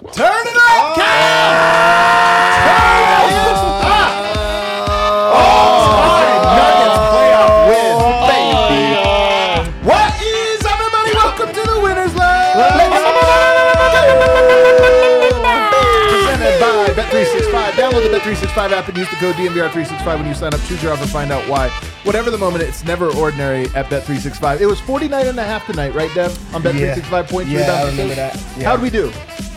Turn it up, Nuggets playoff win, baby. What is up, everybody? Welcome to the Winners Lounge. Presented by Bet365. Download the Bet365 app and use the code DNVR365 when you sign up. Choose your offer, find out why. Whatever the moment, it's never ordinary at Bet365. It was 49.5 tonight, right, Dev? On Bet365 points. Yeah, I remember that. Yeah. How'd we do?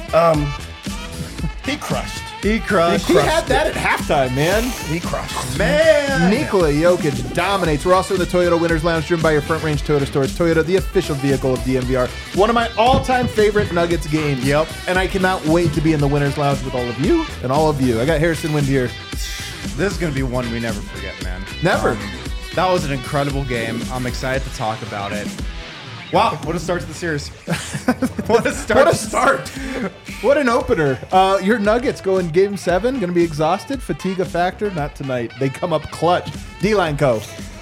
He crushed. He had that at halftime, man. He crushed. Man. Nikola Jokic dominates. We're also in the Toyota Winners Lounge, driven by your Front Range Toyota stores. Toyota, the official vehicle of DNVR. One of my all-time favorite Nuggets games. Yep. And I cannot wait to be in the Winners Lounge with all of you and all of you. I got Harrison Wind here. This is going to be one we never forget, man. Never. That was an incredible game. I'm excited to talk about it. Wow, what a start to the series. What a start. What a start. What an opener. Your Nuggets go in Game 7, going to be exhausted. Fatigue a factor? Not tonight. They come up clutch. D-Line Co.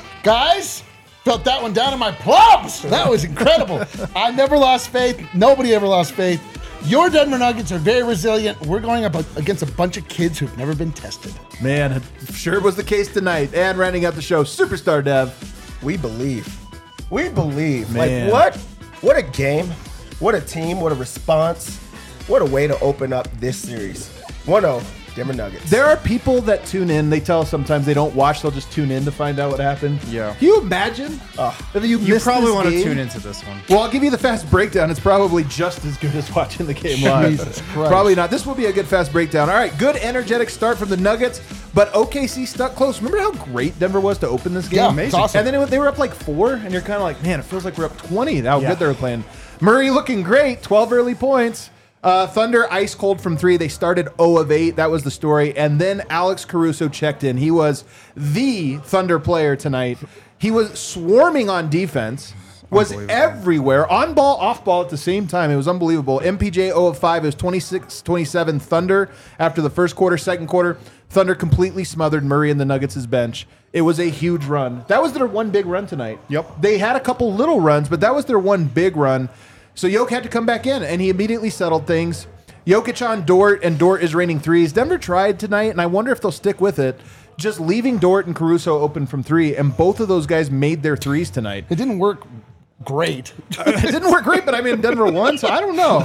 Guys, felt that one down in my plums. That was incredible. I never lost faith. Nobody ever lost faith. Your Denver Nuggets are very resilient. We're going up against a bunch of kids who've never been tested. Man, it sure was the case tonight. And rounding out the show, Superstar Dev. We believe. We believe. Man. Like, what a game. What a team. What a response. What a way to open up this series. 1-0, Denver Nuggets. There are people that tune in. They tell us sometimes they don't watch. They'll just tune in to find out what happened. Yeah. Can you imagine if you You missed probably this want to game? tune into this one. Well, I'll give you the fast breakdown. It's probably just as good as watching the game live. Jesus Christ. Probably not. This will be a good fast breakdown. All right, good energetic start from the Nuggets, but OKC stuck close. Remember how great Denver was to open this game? Yeah, it's awesome. And then they were up like 4, and you're kind of like, man, it feels like we're up 20. How good they were playing. Murray looking great, 12 early points. Thunder ice cold from 3. They started 0 of 8. That was the story. And then Alex Caruso checked in. He was the Thunder player tonight. He was swarming on defense. Was everywhere. On ball, off ball at the same time. It was unbelievable. MPJ 0 of 5. It was 26-27 Thunder after the first quarter. Second quarter, Thunder completely smothered Murray and the Nuggets' bench. It was a huge run. That was their one big run tonight. Yep. They had a couple little runs, but that was their one big run. So Jokic had to come back in, and he immediately settled things. Jokic on Dort, and Dort is raining threes. Denver tried tonight, and I wonder if they'll stick with it, just leaving Dort and Caruso open from 3, and both of those guys made their threes tonight. It didn't work great. It didn't work great, but I mean, Denver won, so I don't know.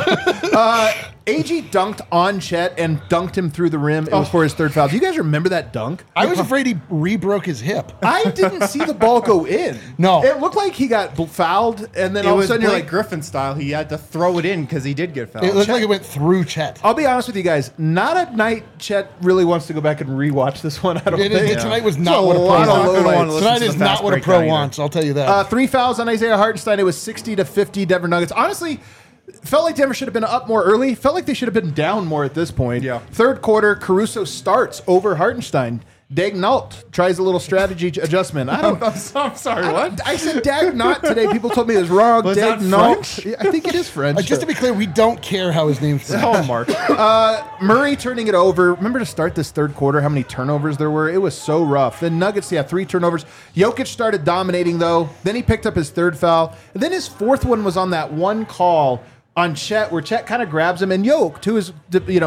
AG dunked on Chet and dunked him through the rim. It was for his third foul. Do you guys remember that dunk? I was afraid he re-broke his hip. I didn't see the ball go in. No. It looked like he got fouled, and then It all of a was sudden Blake you're like, Griffin style. He had to throw it in because he did get fouled. It looked like it went through Chet. I'll be honest with you guys. Not at night. Chet really wants to go back and rewatch this one. I don't think. Tonight was It's not a what a pro lot of wants. lowlights. Tonight is not what a pro wants, I'll tell you that. 3 fouls on Isaiah Hartenstein. It was 60-50 Denver Nuggets. Honestly, felt like Denver should have been up more early. Felt like they should have been down more at this point. Yeah. Third quarter, Caruso starts over Hartenstein. Dagnalt tries a little strategy adjustment. I don't. I'm sorry, what? I said Dagnalt today. People told me it was wrong. Was that Dagnalt. I think it is French. Just to be clear, we don't care how his name's pronounced. Mark. Murray turning it over. Remember to start this third quarter, how many turnovers there were? It was so rough. The Nuggets, 3 turnovers. Jokic started dominating, though. Then he picked up his third foul. And then his fourth one was on that one call on Chet, where Chet kind of grabs him. And Jokic, to his,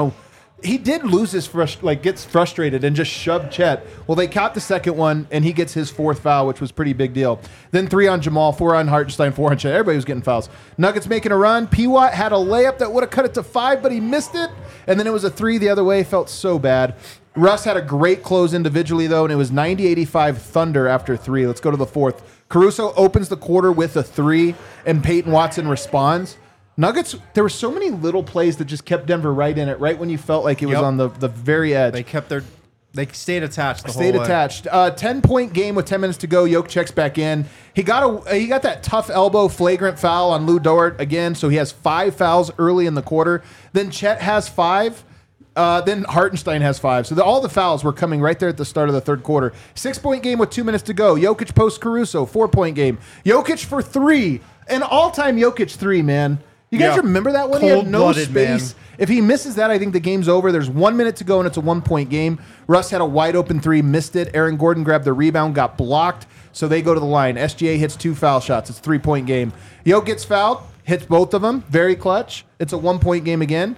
he did lose his gets frustrated and just shoved Chet. Well, they caught the second one, and he gets his fourth foul, which was pretty big deal. Then 3 on Jamal, 4 on Hartenstein, 4 on Chet. Everybody was getting fouls. Nuggets making a run. P-Watt had a layup that would have cut it to 5, but he missed it. And then it was a 3 the other way. Felt so bad. Russ had a great close individually, though, and it was 90-85 Thunder after 3. Let's go to the fourth. Caruso opens the quarter with a 3, and Peyton Watson responds. Nuggets, there were so many little plays that just kept Denver right in it, right when you felt like it was on the very edge. They stayed attached the whole Stayed way. attached. 10-point game with 10 minutes to go. Jokic checks back in. He got that tough elbow flagrant foul on Lou Dort again, so he has 5 fouls early in the quarter. Then Chet has 5. Then Hartenstein has 5. So all the fouls were coming right there at the start of the third quarter. 6-point game with 2 minutes to go. Jokic posts Caruso. 4-point game. Jokic for 3. An all-time Jokic 3, man. You guys remember that one? He had no space. Man. If he misses that, I think the game's over. There's 1 minute to go, and it's a 1-point game. Russ had a wide-open 3, missed it. Aaron Gordon grabbed the rebound, got blocked, so they go to the line. SGA hits 2 foul shots. It's a 3-point game. Yo gets fouled, hits both of them. Very clutch. It's a 1-point game again.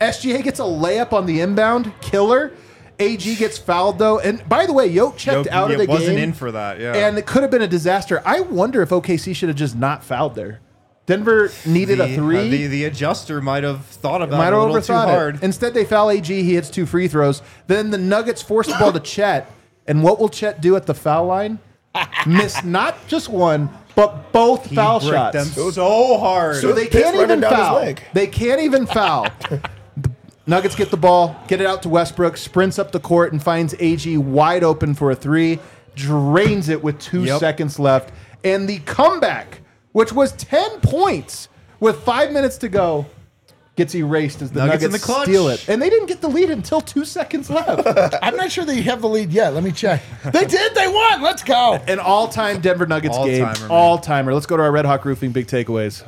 SGA gets a layup on the inbound, killer. AG gets fouled though, and by the way, Yoke checked out of the game. Wasn't in for that, yeah. And it could have been a disaster. I wonder if OKC should have just not fouled there. Denver needed a three. The adjuster might have thought about Might it a have little too overthought hard. it. Instead, they foul AG. He hits 2 free throws. Then the Nuggets force the ball to Chet. And what will Chet do at the foul line? Miss not just one, but both He foul bricked shots. them so hard. So they Piss can't running even down his foul. leg. They can't even foul. The Nuggets get the ball, get it out to Westbrook, sprints up the court, and finds AG wide open for a 3. Drains it with 2 seconds left. And the comeback, which was 10 points with 5 minutes to go, gets erased as the Nuggets in Nuggets the clutch. steal it. And they didn't get the lead until 2 seconds left. I'm not sure they have the lead yet. Let me check. They did. They won. Let's go. An all-time Denver Nuggets game. All-timer, man. All-timer. Let's go to our Red Hawk Roofing big takeaways.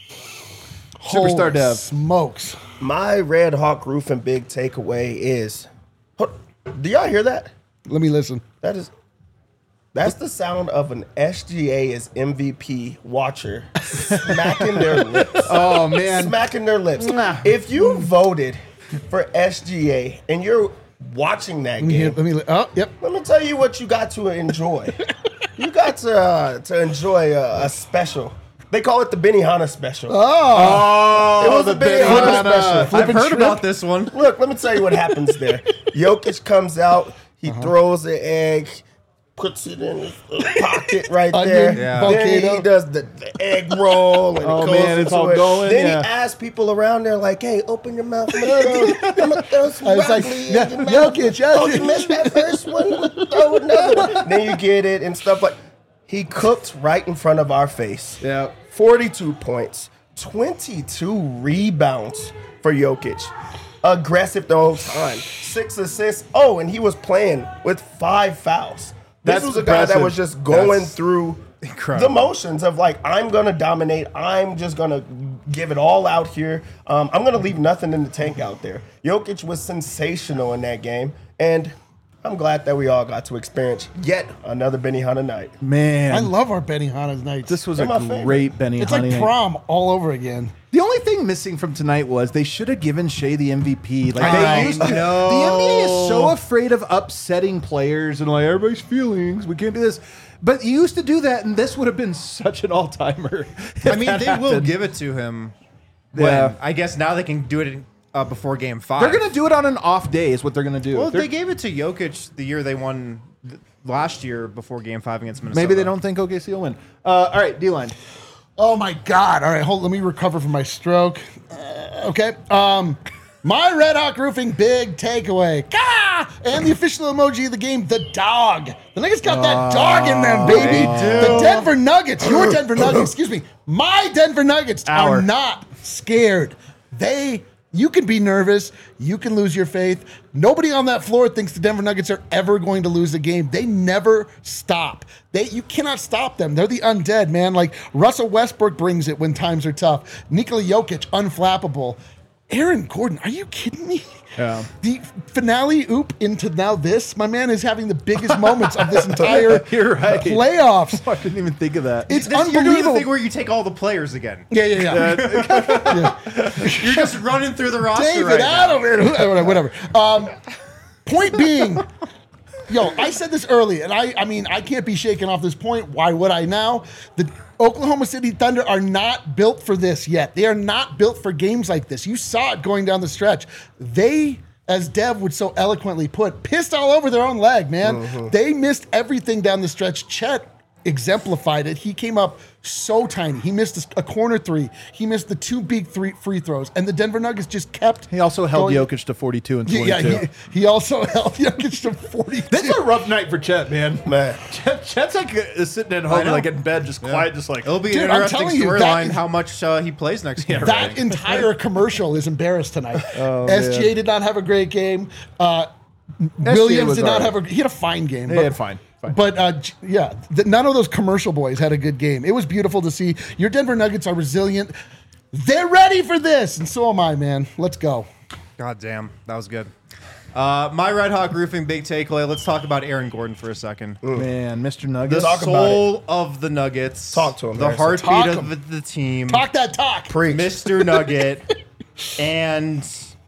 Superstar Holy Dev. smokes. My Red Hawk Roofing big takeaway is. Do y'all hear that? Let me listen. That's the sound of an SGA as MVP watcher smacking their lips. Oh, man. Smacking their lips. Mwah. If you voted for SGA and you're watching that game, Yep. let me tell you what you got to enjoy. You got to enjoy a special. They call it the Benihana special. Oh, It was a Benihana special. I've heard about this one. Look, let me tell you what happens there. Jokic comes out, he throws the egg, puts it in his pocket right there. Onion Yeah. Then volcano. he does the egg roll. And Oh, it goes man, it's into all it. going, Then yeah. he asks people around there, like, hey, open your mouth. I'm going to throw some I was like, broccoli yeah, in your mouth. Jokic, Oh, Jokic. you missed that first one? I'm gonna throw another one. Then you get it and stuff like he cooked right in front of our face. Yeah. 42 points, 22 rebounds for Jokic. Aggressive the whole time. 6 assists. Oh, and he was playing with 5 fouls. That's This was a guy that impressive. was just going That's through incredible. the motions of like, I'm going to dominate. I'm just going to give it all out here. I'm going to leave nothing in the tank out there. Jokic was sensational in that game. And I'm glad that we all got to experience yet another Benihana night. Man. I love our Benihana's nights. This was They're a my favorite. great Benny It's Honey like night. prom all over again. The only thing missing from tonight was they should have given Shea the MVP. Like I they used to. know. The NBA is so afraid of upsetting players and like everybody's feelings. We can't do this. But you used to do that, and this would have been such an all-timer. I mean, they will give it to him. When, Yeah. I guess now they can do it before Game 5. They're gonna do it on an off day. Is what they're gonna do. Well, They're- they gave it to Jokic the year they won last year before Game 5 against Minnesota. maybe they don't think OKC will win. All right, D-line. Oh my God! All right, hold. Let me recover from my stroke. Okay. My Red Hawk Roofing big takeaway. Gah! And the official emoji of the game, the dog. The Nuggets got that dog in them, baby. The Denver Nuggets, your Denver Nuggets, excuse me, my Denver Nuggets are not scared. You can be nervous. You can lose your faith. Nobody on that floor thinks the Denver Nuggets are ever going to lose a game. They never stop. You cannot stop them. They're the undead, man. Like Russell Westbrook brings it when times are tough. Nikola Jokic, unflappable. Aaron Gordon, are you kidding me? Yeah. The finale oop into now this, my man is having the biggest moments of this entire You're right. playoffs. I didn't even think of that. It's You're doing the unbelievable. thing where you take all the players again. Yeah. You're just running through the roster David right now. Adam, whatever. Point being, I said this early, and I mean, I can't be shaken off this point. Why would I now? The Oklahoma City Thunder are not built for this yet. They are not built for games like this. You saw it going down the stretch. They, as Dev would so eloquently put, pissed all over their own leg, man. They missed everything down the stretch. Chet exemplified it. He came up so tiny. He missed a corner 3. He missed the 2 big free throws. And the Denver Nuggets just kept He also held going. Jokic to 42 and 22. Yeah, he also held Jokic to 42. This is a rough night for Chet, man. Man. Chet's like sitting at home, know. like in bed, just quiet, just like. It'll be Dude, an I'm interesting telling you, storyline that- how much he plays next game. That entire commercial is embarrassed tonight. SGA did not have a great game. Williams was did not all right. have he had a fine game. They had fine. But none of those commercial boys had a good game. It was beautiful to see. Your Denver Nuggets are resilient. They're ready for this, and so am I, man. Let's go. God damn, that was good. My Red Hawk Roofing big takeaway. Let's talk about Aaron Gordon for a second. Man, Mr. The Nuggets. Talk about soul of the Nuggets. Talk to him, The Harrison. heartbeat Talk of the team. Talk that talk. Preach. Mr. Nugget. And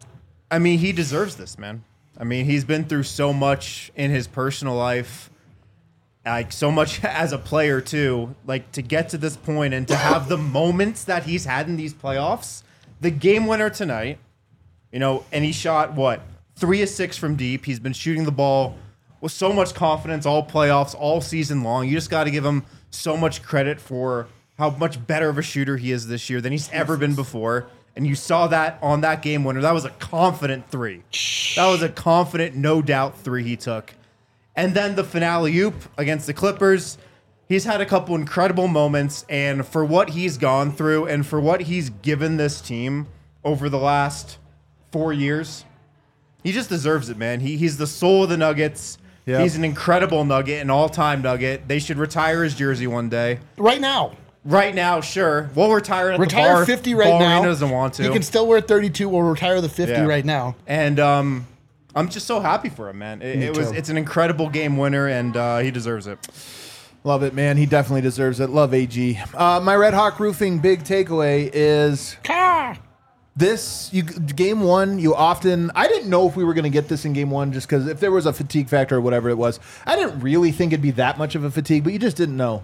I mean, he deserves this, man. I mean, he's been through so much in his personal life, like so much as a player too. Like to get to this point and to have the moments that he's had in these playoffs, the game winner tonight, you know, and he shot what 3 of 6 from deep. He's been shooting the ball with so much confidence all playoffs, all season long. You just got to give him so much credit for how much better of a shooter he is this year than he's ever been before. And you saw that on that game winner. That was a confident 3. That was a confident, no doubt 3 he took. And then the finale oop against the Clippers. He's had a couple incredible moments. And for what he's gone through and for what he's given this team over the last 4 years, he just deserves it, man. He's the soul of the Nuggets. Yep. He's an incredible Nugget, an all-time Nugget. They should retire his jersey one day. Right now. Right now, sure. We'll retire it at the bar. 50 right now. Doesn't want to. He can still wear 32. We'll retire the 50 right now. And I'm just so happy for him, man. It's an incredible game winner, and he deserves it. Love it, man. He definitely deserves it. Love AG. My Red Hawk Roofing big takeaway is game one. I didn't know if we were going to get this in game one, just because if there was a fatigue factor or whatever it was, I didn't really think it'd be that much of a fatigue, but you just didn't know.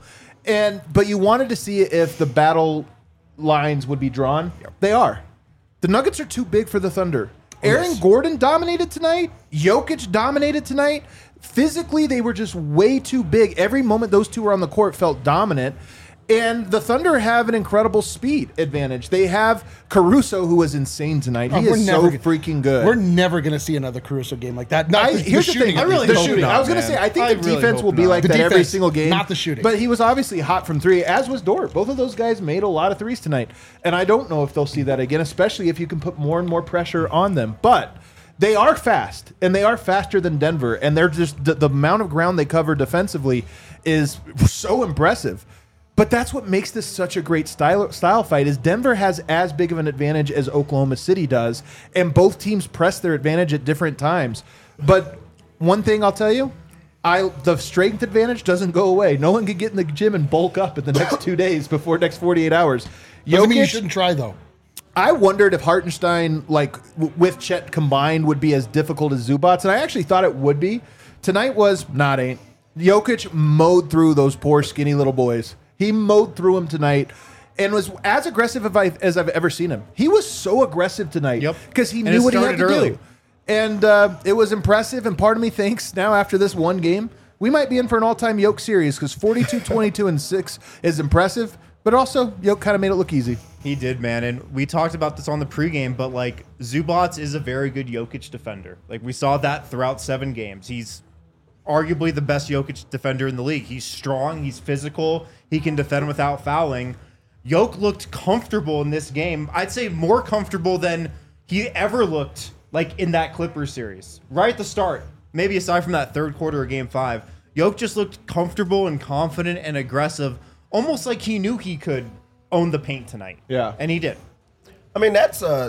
But you wanted to see if the battle lines would be drawn. Yep. They are. The Nuggets are too big for the Thunder. Aaron Gordon dominated tonight. Jokic dominated tonight. Physically, they were just way too big. Every moment those two were on the court felt dominant. And the Thunder have an incredible speed advantage. They have Caruso, who was insane tonight. He is so freaking good. We're never going to see another Caruso game like that. Here's the thing. The shooting. I was going to say, I think the defense will be like that every single game. Not the shooting. But he was obviously hot from 3, as was Dort. Both of those guys made a lot of 3s tonight. And I don't know if they'll see that again, especially if you can put more and more pressure on them. But they are fast, and they are faster than Denver. And they're just the amount of ground they cover defensively is so impressive. But that's what makes this such a great style fight is Denver has as big of an advantage as Oklahoma City does, and both teams press their advantage at different times. But one thing I'll tell you, the strength advantage doesn't go away. No one can get in the gym and bulk up in the next 2 days before next 48 hours. Doesn't mean you shouldn't try, though. I wondered if Hartenstein, with Chet combined, would be as difficult as Zubats, and I actually thought it would be. Tonight was not ain't. Jokic mowed through those poor skinny little boys. He mowed through them tonight and was as aggressive as I've ever seen him. He was so aggressive tonight because he knew what he had to do. And it was impressive, and part of me thinks now after this one game, we might be in for an all-time Yoke series because 42, 22, and 6 is impressive, but also Yoke kind of made it look easy. He did, man, and we talked about this on the pregame, but Zubats is a very good Jokic defender. We saw that throughout 7 games. He's arguably the best Jokic defender in the league. He's strong, he's physical, he can defend without fouling. Jokic looked comfortable in this game. I'd say more comfortable than he ever looked in that Clippers series. Right at the start, maybe aside from that third quarter of game 5, Jokic just looked comfortable and confident and aggressive, almost like he knew he could own the paint tonight. Yeah. And he did. I mean,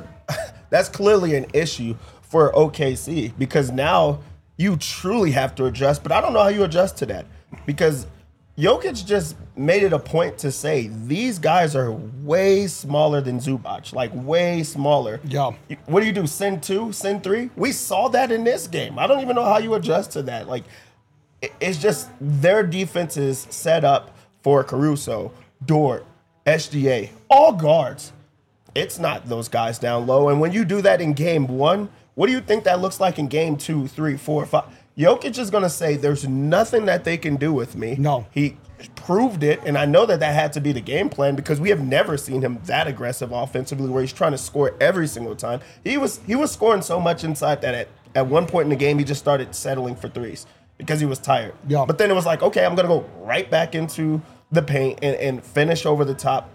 that's clearly an issue for OKC because now you truly have to adjust, but I don't know how you adjust to that because Jokic just made it a point to say these guys are way smaller than Zubac, way smaller. Yeah. What do? Send 2, send 3? We saw that in this game. I don't even know how you adjust to that. It's just their defense is set up for Caruso, Dort, SGA, all guards. It's not those guys down low. And when you do that in game 1, what do you think that looks like in game 2, 3, 4, 5? Jokic is going to say there's nothing that they can do with me. No. He proved it, and I know that had to be the game plan because we have never seen him that aggressive offensively where he's trying to score every single time. He was scoring so much inside that at one point in the game he just started settling for 3s because he was tired. Yeah. But then it was okay, I'm going to go right back into the paint and finish over the top.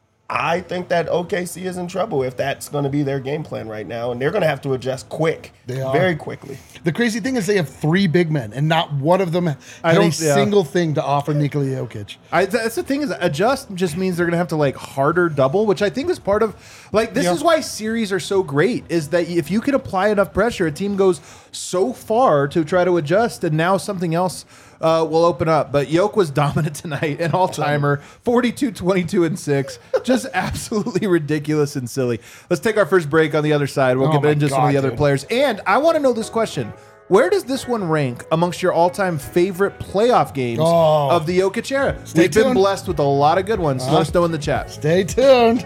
I think that OKC is in trouble if that's going to be their game plan right now, and they're going to have to adjust very quickly. The crazy thing is they have 3 big men, and not one of them had a single thing to offer Nikola Jokic. That's the thing is adjust just means they're going to have to harder double, which I think is part of this is why series are so great is that if you can apply enough pressure, a team goes so far to try to adjust, and now something else will open up. But Yoke was dominant tonight, an all-timer, 42, 22, and 6. Just absolutely ridiculous and silly. Let's take our first break on the other side. We'll get into some of the other players. And I want to know this question. Where does this one rank amongst your all-time favorite playoff games of the Jokic era? We've been blessed with a lot of good ones. Let us know in the chat. Stay tuned.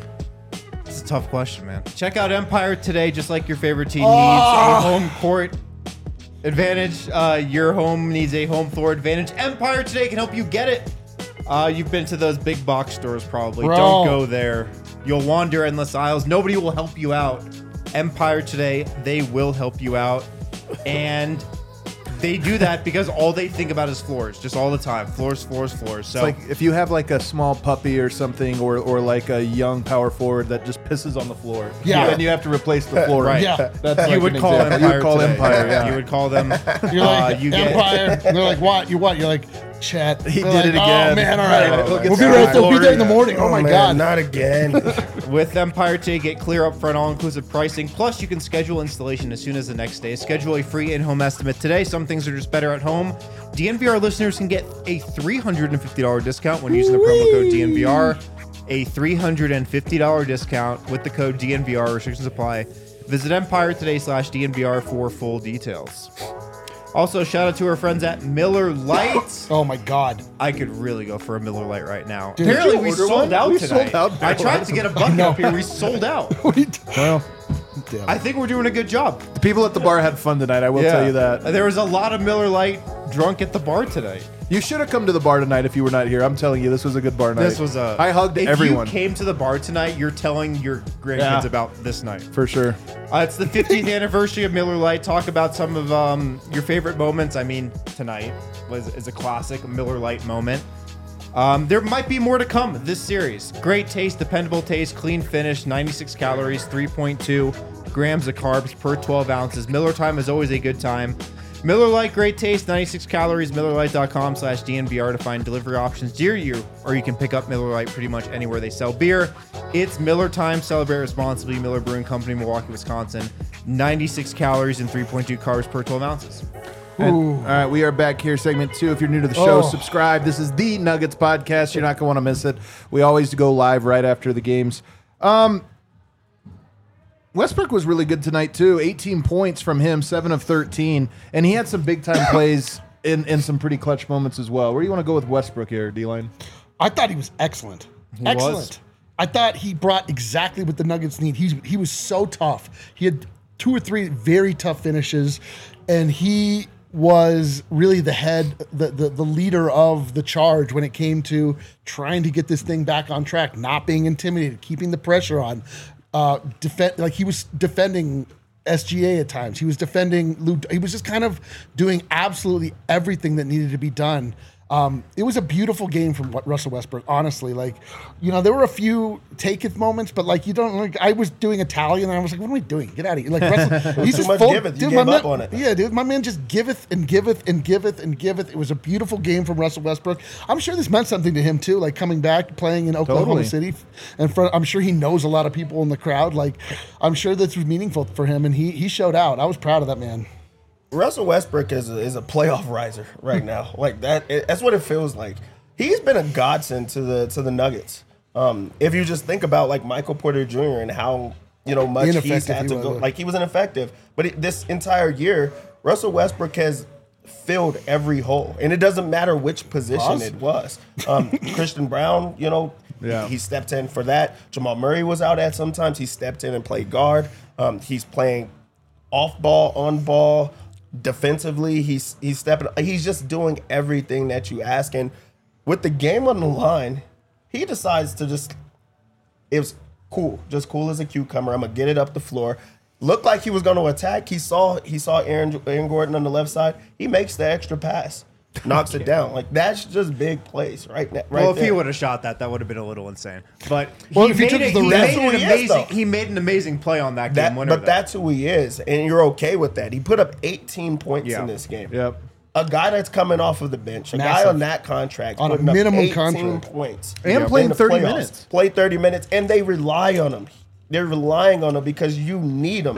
It's a tough question, man. Check out Empire today, just like your favorite team needs a home court advantage. Your home needs a home floor advantage. Empire today can help you get it. You've been to those big box stores probably. Bro. Don't go there. You'll wander endless aisles. Nobody will help you out. Empire today, they will help you out. And they do that because all they think about is floors, just all the time. Floors, floors, floors. So It's like if you have like a small puppy or something, or like a young power forward that just pisses on the floor, and you have to replace the floor. Right. Yeah. That's you like would an call example. Empire. You would call today. Empire. Yeah. You would call them. You're like, you get- Empire. And they're like, what? You what? You're like, Chet. He They're did like, it again. Oh, man, all right. Oh, We'll be right there. We'll be there in the morning. Oh, my man, God. not again. With Empire today, get clear upfront all-inclusive pricing. Plus, you can schedule installation as soon as the next day. Schedule a free in-home estimate today. Some things are just better at home. DNVR listeners can get a $350 discount when using the promo code DNVR. A $350 discount with the code DNVR. Restrictions apply. Visit EmpireToday/DNVR for full details. Also, shout out to our friends at Miller Lite. Oh, my God. I could really go for a Miller Lite right now. Dude, Apparently, did we you order sold one? out We tonight. sold out I Miller tried Lites. to get a bucket up here. We sold out. Well, Damn. I think we're doing a good job. the people at the bar had fun tonight. I will tell you that. There was a lot of Miller Lite drunk at the bar tonight. You should have come to the bar tonight if you were not here. I'm telling you, this was a good bar night. This was a. I hugged if everyone you came to the bar tonight, you're telling your grandkids Yeah. about this night. for sure. It's the 50th anniversary of Miller Lite. Talk about some of your favorite moments. I mean, tonight is a classic Miller Lite moment. There might be more to come this series. Great taste, dependable taste, clean finish, 96 calories, 3.2 grams of carbs per 12 ounces. Miller time is always a good time. Miller Lite, great taste, 96 calories. MillerLite.com/DNVR to find delivery options near you, or you can pick up Miller Lite pretty much anywhere they sell beer. It's Miller time. Celebrate responsibly. Miller Brewing Company, Milwaukee, Wisconsin. 96 calories and 3.2 carbs per 12 ounces. All right, we are back here, segment 2. If you're new to the show, Oh. subscribe. This is the Nuggets podcast. You're not going to want to miss it. We always go live right after the games. Westbrook was really good tonight, too. 18 points from him, 7 of 13. And he had some big-time plays in some pretty clutch moments as well. Where do you want to go with Westbrook here, D-Line? I thought he was excellent. Excellent. I thought he brought exactly what the Nuggets need. He was so tough. He had 2 or 3 very tough finishes, and he was really the head, the leader of the charge when it came to trying to get this thing back on track, not being intimidated, keeping the pressure on. He was defending SGA at times. He was defending Lou. He was just kind of doing absolutely everything that needed to be done. It was a beautiful game from Russell Westbrook, honestly. There were a few take it moments, but I was doing Italian and I was like, what am I doing? Get out of here. Russell, he's Too just much full. giveth. You Dude, gave my up man, on it. Yeah, dude, my man just giveth and giveth and giveth and giveth. It was a beautiful game from Russell Westbrook. I'm sure this meant something to him too, coming back, playing in Oklahoma City. I'm sure he knows a lot of people in the crowd. I'm sure this was meaningful for him, and he showed out. I was proud of that man. Russell Westbrook is a playoff riser right now. That's what it feels like. He's been a godsend to the Nuggets. If you just think about Michael Porter Jr. and how much he's Ineffective had he to go, was. he was ineffective. But this entire year, Russell Westbrook has filled every hole, and it doesn't matter which position it was. Christian Brown, he stepped in for that. Jamal Murray was out at sometimes. He stepped in and played guard. He's playing off ball, on ball. Defensively, he's stepping. He's just doing everything that you ask. And with the game on the line, he decides to it was cool, just cool as a cucumber. I'm gonna get it up the floor. Looked like he was going to attack. He saw Aaron Gordon on the left side. He makes the extra pass, knocks it down. That's just big plays right now. Well, if he would have shot that would have been a little insane. But if he took the rim- he made an amazing play on that game winner. But that's who he is, and you're okay with that. He put up 18 points in this game. Yep. A guy that's coming off of the bench, a guy on that contract, On a putting up minimum 18 contract. points. And in playing the 30 playoffs. minutes. Play 30 minutes, and they rely on him. They're relying on him because you need him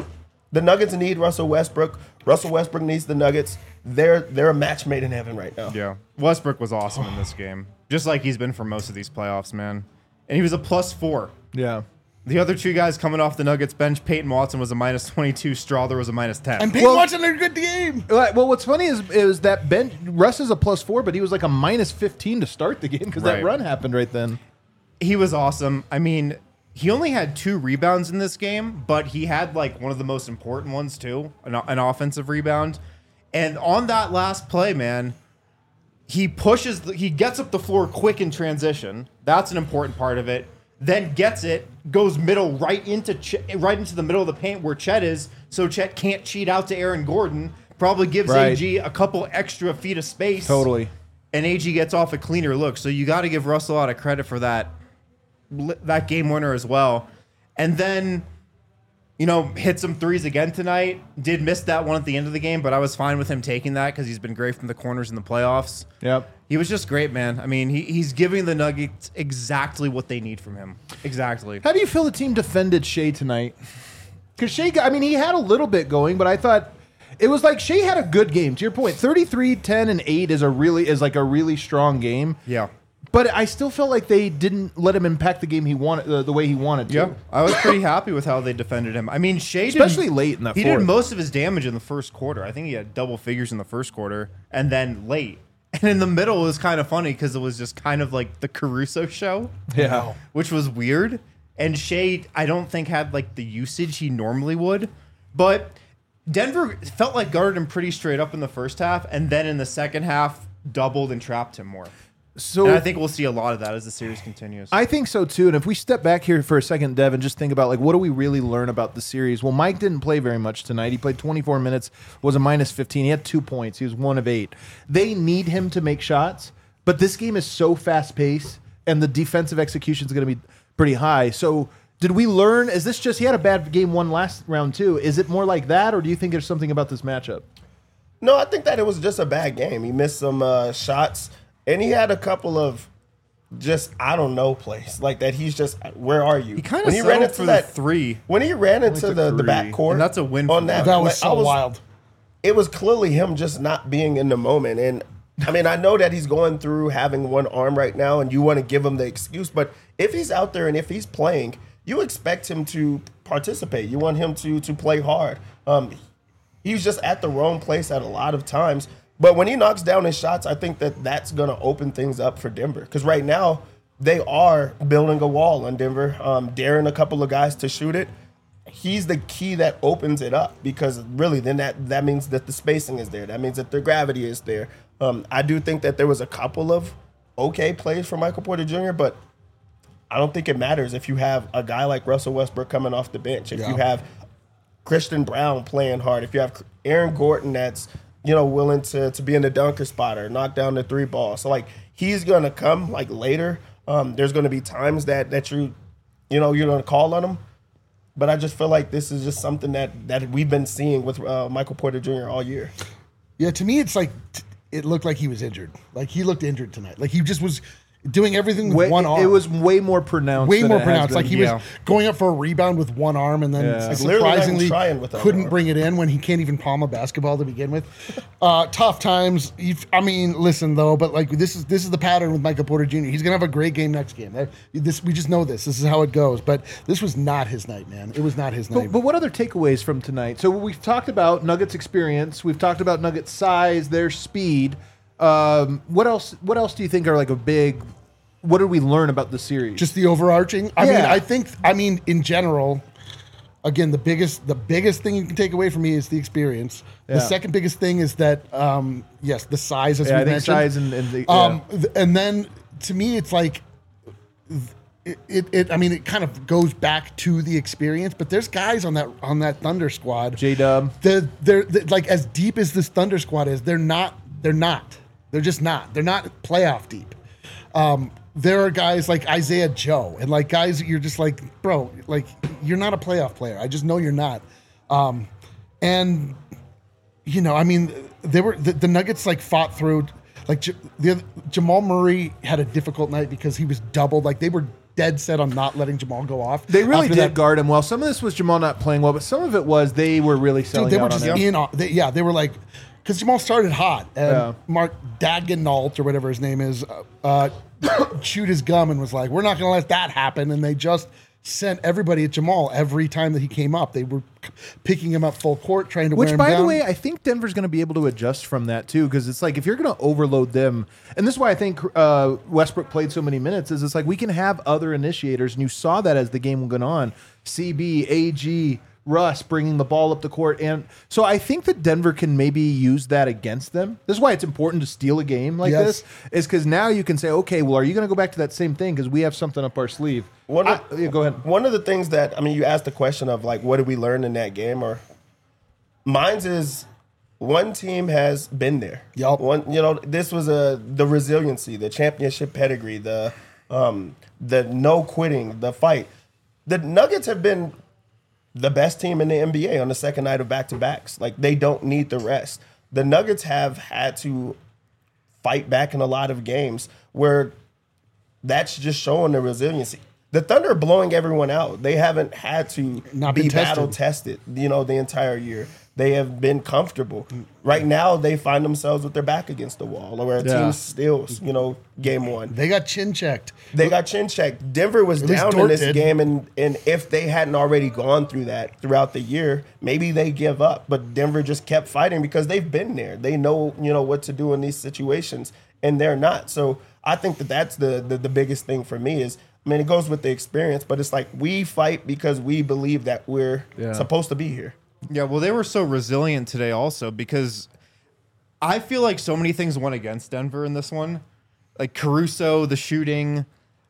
The Nuggets need Russell Westbrook. Russell Westbrook needs the Nuggets. They're a match made in heaven right now. Yeah. Westbrook was awesome in this game. Just like he's been for most of these playoffs, man. And he was a +4. Yeah. The other two guys coming off the Nuggets bench, Peyton Watson was a -22, Strawther was a -10. And Peyton Watson had a good game. Well, what's funny is that Russ is a +4, but he was like a -15 to start the game because that Right. run happened right then. He was awesome. I mean, he only had 2 rebounds in this game, but he had like one of the most important ones too, an offensive rebound. And on that last play, man, he gets up the floor quick in transition. That's an important part of it. Then gets it, goes middle right into the middle of the paint where Chet is, so Chet can't cheat out to Aaron Gordon. Probably gives Right. AG a couple extra feet of space. Totally. And AG gets off a cleaner look. So you got to give Russell a lot of credit for that game winner as well. And then, hit some threes again tonight. Did miss that one at the end of the game, but I was fine with him taking that because he's been great from the corners in the playoffs. Yep. He was just great, man. I mean, he's giving the Nuggets exactly what they need from him. Exactly. How do you feel the team defended Shea tonight? Because Shea, he had a little bit going, but I thought it was like Shea had a good game. To your point, 33, 10, and 8 is a really strong game. Yeah. But I still felt like they didn't let him impact the game he wanted the way he wanted to. Yeah, I was pretty happy with how they defended him. I mean, Shea Especially late in that He fourth. did most of his damage in the first quarter. I think he had double figures in the first quarter, and then late. And in the middle, it was kind of funny because it was just kind of like the Caruso show. Yeah. Which was weird. And Shea, I don't think, had like the usage he normally would. But Denver felt like guarded him pretty straight up in the first half, and then in the second half, doubled and trapped him more. So And I think we'll see a lot of that as the series continues. I think so too. And if we step back here for a second, Dev, and just think about like what do we really learn about the series? Well, Mike didn't play very much tonight. He played 24 minutes, was a -15. He had 2 points. He was 1 of 8. They need him to make shots, but this game is so fast paced, and the defensive execution is going to be pretty high. So did we learn? Is this just he had a bad game one last round too? Is it more like that, or do you think there's something about this matchup? No, I think that it was just a bad game. He missed some shots, and he had a couple of just I don't know plays like that. He's just where are you? He kind of when he ran into for that the 3. when he ran into the three, backcourt, and that's a win on for that. That was like, so wild. It was clearly him just not being in the moment. And I mean, I know that he's going through having one arm right now, and you want to give him the excuse. But if he's out there and if he's playing, you expect him to participate. You want him to play hard. He's just at the wrong place at a lot of times. But when he knocks down his shots, I think that that's going to open things up for Denver. Because right now, they are building a wall on Denver, daring a couple of guys to shoot it. He's the key that opens it up because really then that means that the spacing is there. That means that the gravity is there. I do think that there was a couple of okay plays for Michael Porter Jr., but I don't think it matters if you have a guy like Russell Westbrook coming off the bench, if you have Christian Brown playing hard, if you have Aaron Gordon that's willing to be in the dunker spot or knock down the 3 ball. So like he's gonna come like later. There's gonna be times that you're gonna call on him. But I just feel like this is just something that we've been seeing with Michael Porter Jr. all year. Yeah, to me, it's like it looked like he was injured. Like he looked injured tonight. Like he just was doing everything with one arm. It was way more pronounced. way than more it has pronounced. been. Like he was going up for a rebound with one arm, and then Clearly not even surprisingly trying with the other couldn't arm. bring it in when he can't even palm a basketball to begin with. Tough times. I mean, listen though, but like this is the pattern with Michael Porter Jr. He's gonna have a great game next game. We just know this. This is how it goes. But this was not his night, man. It was not his night. But what other takeaways from tonight? So we've talked about Nuggets experience. We've talked about Nuggets size, their speed. What else? What else do you think are like a big? What did we learn about the series? Just the overarching. I Yeah. mean, in general, again, the biggest thing you can take away from me is the experience. Yeah. The second biggest thing is that, yes, the size, as yeah, we I think mentioned. size and the, And then to me, it's like it kind of goes back to the experience. But there's guys on that Thunder squad. J-Dub. They're like as deep as this Thunder squad is. They're not. They're just not. They're not playoff deep. There are guys like Isaiah Joe and like guys that you're just like, bro, like you're not a playoff player. I just know you're not. And I mean, they were the Nuggets like fought through. Like Jamal Murray had a difficult night because he was doubled. Like they were dead set on not letting Jamal go off. They really after did that. guard him well. Some of this was Jamal not playing well, but some of it was they were really selling Dude, they were out just on him. in on. They were like, because Jamal started hot, and Yeah. Mark Dagenalt or whatever his name is, chewed his gum and was like, "We're not going to let that happen." And they just sent everybody at Jamal every time that he came up. They were picking him up full court, trying to wear Which, him by down. the way, I think Denver's going to be able to adjust from that too, because it's like if you're going to overload them, and this is why I think Westbrook played so many minutes. Is it's like we can have other initiators, and you saw that as the game went on. CB, AG, Russ bringing the ball up the court, and so I think that Denver can maybe use that against them. This is why it's important to steal a game like Yes. this, is because now you can say, okay, well, are you going to go back to that same thing because we have something up our sleeve? One of, Yeah, go ahead. One of the things that, I mean, you asked the question of like, what did we learn in that game? Or mine's is one team has been there. Yup. One, this was the resiliency, the championship pedigree, the no quitting, the fight. The Nuggets have been the best team in the NBA on the second night of back-to-backs. Like, they don't need the rest. The Nuggets have had to fight back in a lot of games where that's just showing the resiliency. The Thunder are blowing everyone out. They haven't had to Not be been tested. battle tested, the entire year. They have been comfortable. Right now, they find themselves with their back against the wall, or a Yeah. team steals, game one. They got chin checked. They got chin checked. Denver was At least down in Dort this did. game, and if they hadn't already gone through that throughout the year, maybe they give up. But Denver just kept fighting because they've been there. They know, what to do in these situations, and they're not. So I think that's the biggest thing for me is, I mean, it goes with the experience, but it's like we fight because we believe that we're supposed to be here. Yeah, well, they were so resilient today also because I feel like so many things went against Denver in this one. Like Caruso, the shooting,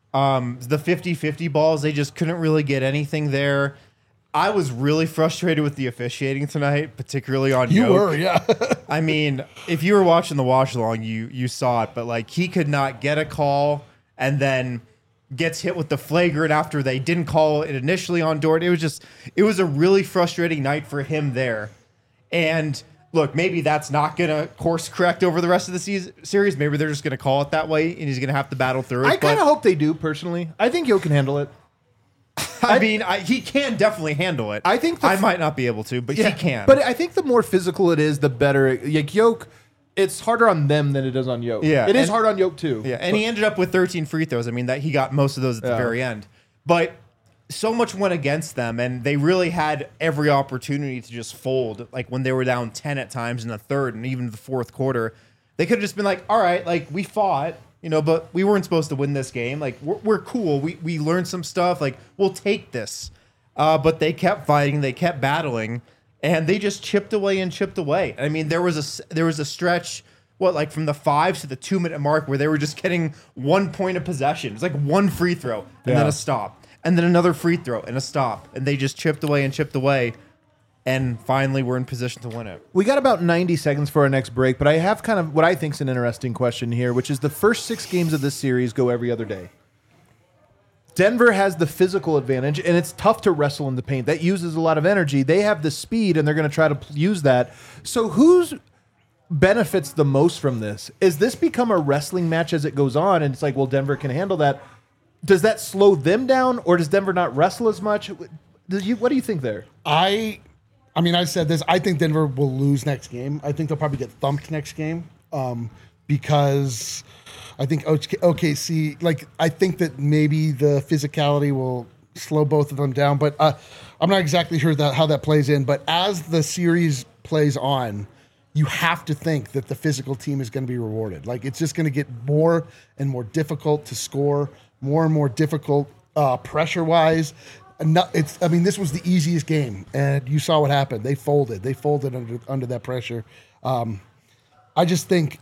the 50-50 balls, they just couldn't really get anything there. I was really frustrated with the officiating tonight, particularly on You Yoke. were, yeah. I mean, if you were watching the watch along, you saw it, but like he could not get a call and then gets hit with the flagrant after they didn't call it initially on Dort. It was a really frustrating night for him there. And look, maybe that's not going to course correct over the rest of the series. Maybe they're just going to call it that way and he's going to have to battle through it. I kind of hope they do personally. I think Yo can handle it. I mean, he can definitely handle it. I think I might not be able to, but he can. But I think the more physical it is, the better. Like Yoke, it's harder on them than it is on Yoke. Yeah, it is and- hard on Yoke too. Yeah, and he ended up with 13 free throws. I mean, that he got most of those at the very end. But so much went against them, and they really had every opportunity to just fold. Like when they were down 10 at times in the third and even the fourth quarter, they could have just been like, "All right, like we fought, but we weren't supposed to win this game. Like we're cool. We learned some stuff. Like we'll take this." But they kept fighting. They kept battling, and they just chipped away and chipped away. I mean, there was a stretch. Like from the 5 to the 2 minute mark where they were just getting 1 point of possession. It's like one free throw and then a stop. And then another free throw and a stop. And they just chipped away and chipped away. And finally we're in position to win it. We got about 90 seconds for our next break, but I have kind of what I think is an interesting question here, which is the first 6 games of this series go every other day. Denver has the physical advantage, and it's tough to wrestle in the paint. That uses a lot of energy. They have the speed, and they're going to try to use that. So who's benefits the most from this? Is this become a wrestling match as it goes on, and it's like, well, Denver can handle that? Does that slow them down, or does Denver not wrestle as much? What do you think there? I mean, I said this. I think Denver will lose next game. I think they'll probably get thumped next game because I think OKC, like, I think that maybe the physicality will slow both of them down. But I'm not exactly sure how that plays in. But as the series plays on, you have to think that the physical team is going to be rewarded. Like, it's just going to get more and more difficult to score, more and more difficult pressure-wise. This was the easiest game, and you saw what happened. They folded. They folded under that pressure. I just think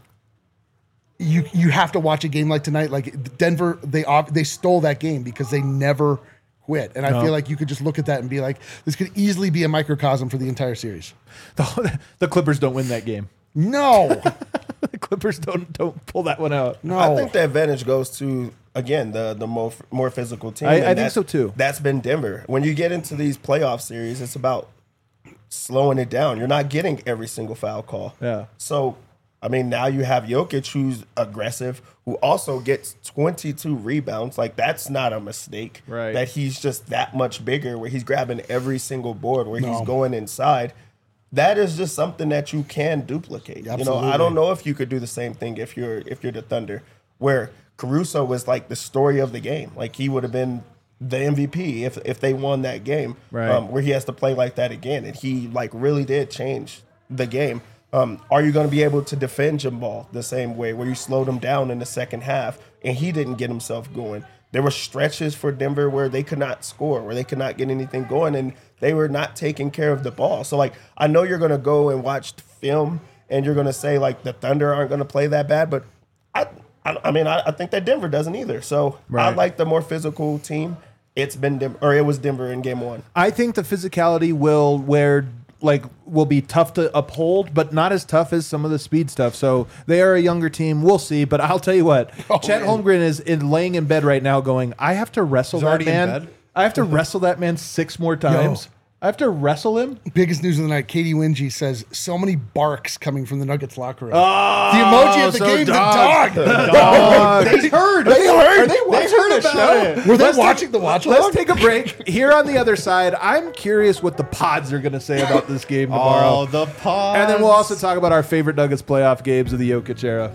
you have to watch a game like tonight. Like Denver, they stole that game because they never quit. And I feel like you could just look at that and be like, this could easily be a microcosm for the entire series. The Clippers don't win that game. No, The Clippers don't pull that one out. no. I think the advantage goes to, again, the more physical team. I and think so, too. That's been Denver. When you get into these playoff series, it's about slowing it down. You're not getting every single foul call. Yeah. So, I mean, now you have Jokic, who's aggressive, who also gets 22 rebounds. Like, that's not a mistake. Right. That he's just that much bigger, where he's grabbing every single board, where he's going inside. That is just something that you can duplicate. You know, Absolutely. I don't know if you could do the same thing if you're the Thunder, where Caruso was like the story of the game. Like, he would have been the MVP if they won that game, Right. where he has to play like that again. And he like really did change the game. Are you going to be able to defend Jamal the same way, where you slowed him down in the second half and he didn't get himself going? There were stretches for Denver where they could not score, where they could not get anything going, and they were not taking care of the ball. So, like, I know you're going to go and watch film and you're going to say, like, the Thunder aren't going to play that bad, but I think that Denver doesn't either. So I Right. like the more physical team. It was Denver in game one. I think the physicality will be tough to uphold, but not as tough as some of the speed stuff. So they are a younger team. We'll see. But I'll tell you what, Chet Holmgren is laying in bed right now going, I have to wrestle that already in man. bed? I have to wrestle that man 6 more times. I have to wrestle him. Biggest news of the night. Katie Wingy says so many barks coming from the Nuggets locker room. The emoji of the so game, dog. the dog. They heard. They heard. Are they watching the show? Were they watching the watch Let's along? take a break. Here on the other side, I'm curious what the pods are going to say about this game tomorrow. Oh, the pods. And then we'll also talk about our favorite Nuggets playoff games of the Jokic era.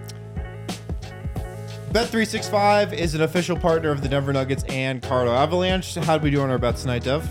Bet365 is an official partner of the Denver Nuggets and Colorado Avalanche. How did we do on our bets tonight, Dev?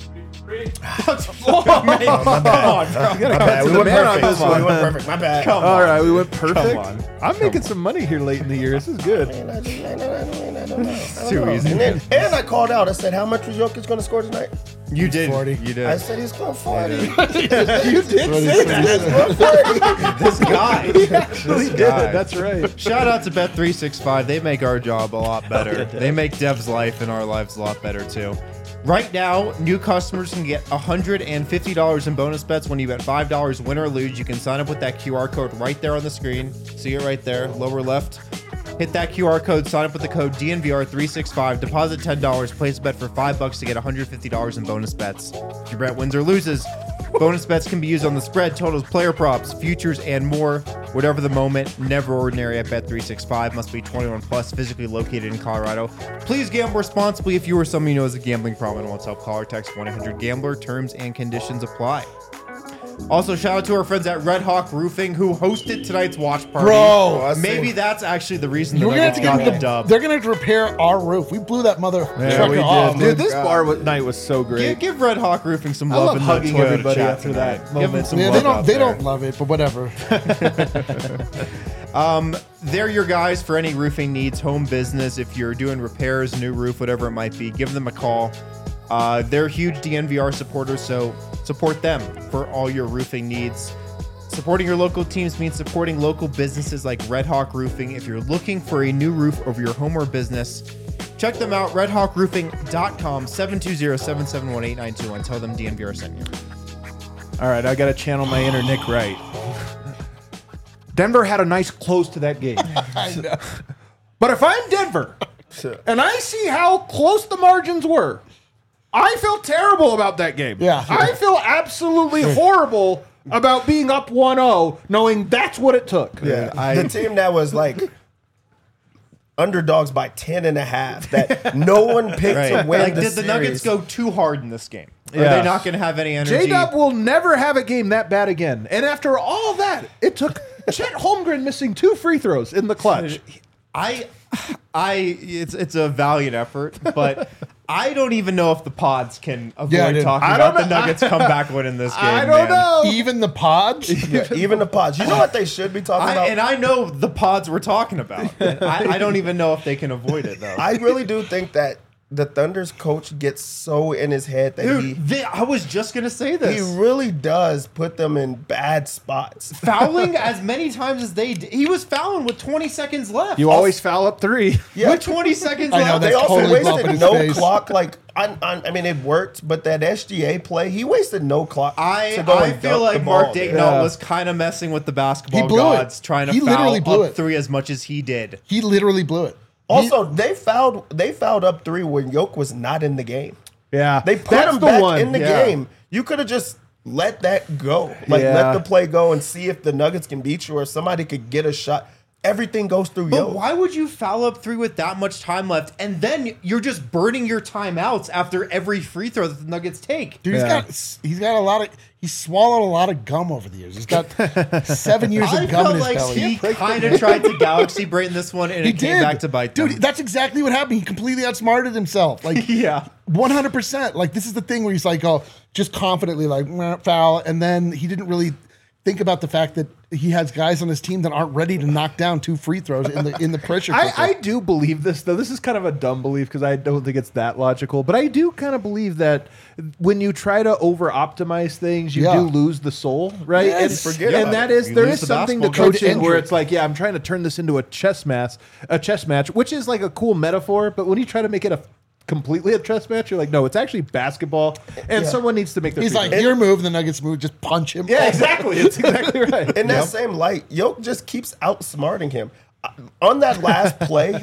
My bad. We the went man on perfect. this one. We went perfect. My bad. All right, we went perfect. on. I'm making some money here late in the year. This is good. I don't know. Too easy. And I called out. I said, how much was Jokic going to score tonight? You did. 40. You did. I said he's going 40. You did say that. This guy. This guy. That's right. Shout out to Bet365. They make our job a lot better. They make Dev's life and our lives a lot better too. Right now, new customers can get $150 in bonus bets when you bet $5 win or lose. You can sign up with that QR code right there on the screen. See it right there, lower left. Hit that QR code, sign up with the code DNVR365, deposit $10, place a bet for $5 to get $150 in bonus bets. If your bet wins or loses, bonus bets can be used on the spread, totals, player props, futures, and more. Whatever the moment, never ordinary at Bet365. Must be 21 plus, physically located in Colorado. Please gamble responsibly. If you or someone you know has a gambling problem and wants help, call or text 1-800-GAMBLER. Terms and conditions apply. Also, shout out to our friends at Red Hawk Roofing who hosted tonight's watch party. Bro, maybe that's actually the reason the We're gonna have Nuggets to got get the dub. they're gonna have to repair our roof. We blew that mother trucker off. Dude, this bar night was so great. Give Red Hawk Roofing some I love love in hugging the Toyota everybody chat after tonight. that Give them moment. some Yeah, love they out don't there. love it, but whatever. They're your guys for any roofing needs, home business. If you're doing repairs, new roof, whatever it might be, give them a call. They're huge DNVR supporters, so support them for all your roofing needs. Supporting your local teams means supporting local businesses like Red Hawk Roofing. If you're looking for a new roof over your home or business, check them out, redhawkroofing.com, 720-771-8921. Tell them DNVR sent you. All right, I got to channel my inner Nick Wright. Denver had a nice close to that game. I know. But if I'm Denver and I see how close the margins were, I feel terrible about that game. Yeah. I feel absolutely horrible about being up 1-0, knowing that's what it took. The team that was like underdogs by 10.5 that no one picked to win Like, the did the Nuggets series. go too hard in this game? Are Yeah. they not going to have any energy? J-Dub will never have a game that bad again. And after all that, it took Chet Holmgren missing 2 free throws in the clutch. It's a valiant effort, but I don't even know if the pods can avoid Yeah, dude. talking I about don't the know. Nuggets comeback win in this game. I don't man. know. Even the pods? Yeah, even the pods. You know what they should be talking about? I know the pods we're talking about. I don't even know if they can avoid it though. I really do think that the Thunder's coach gets so in his head that Dude, I was just gonna say this. he really does put them in bad spots. Fouling as many times as they did. He was fouling with 20 seconds left. You always foul up 3. Yeah. With 20 seconds I know, left. They that's also totally bumping wasted his no face. clock. Like, I mean, it worked, but that SGA play, he wasted no clock. to go I and feel dunk like the Mark ball. Daigneault Yeah. was kind of messing with the basketball He blew it. gods, trying to He foul literally blew up it. 3 as much as he did. He literally blew it. Also, they fouled up 3 when Yoke was not in the game. Yeah. They put That's him the back one. in the Yeah. game. You could have just let that go. Like, Yeah. let the play go and see if the Nuggets can beat you or somebody could get a shot. Everything goes through But Yo. why would you foul up 3 with that much time left, and then you're just burning your timeouts after every free throw that the Nuggets take? Dude, he's got a lot of. He's swallowed a lot of gum over the years. He's got 7 years I of gum in felt his like belly. he kind of tried to Galaxy Brain this one, and He it came did. back to bite them. Dude, that's exactly what happened. He completely outsmarted himself. Like, Yeah. 100%. Like, this is the thing where he's like, oh, just confidently, like, "Meh, foul. And then he didn't really think about the fact that he has guys on his team that aren't ready to knock down 2 free throws in the pressure cooker. I do believe this, though. This is kind of a dumb belief because I don't think it's that logical. But I do kind of believe that when you try to over-optimize things, you Yeah. do lose the soul, right? Yes. And, Forget and about that it. is You there lose is the something to basketball coaching game. where it's like, yeah, I'm trying to turn this into a chess match, which is like a cool metaphor. But when you try to make it completely a chess match, you're like, no, it's actually basketball, and someone needs to make the. He's like, your move, the Nuggets move, just punch him. yeah, exactly. It's exactly right. In that same light, Yoke just keeps outsmarting him. On that last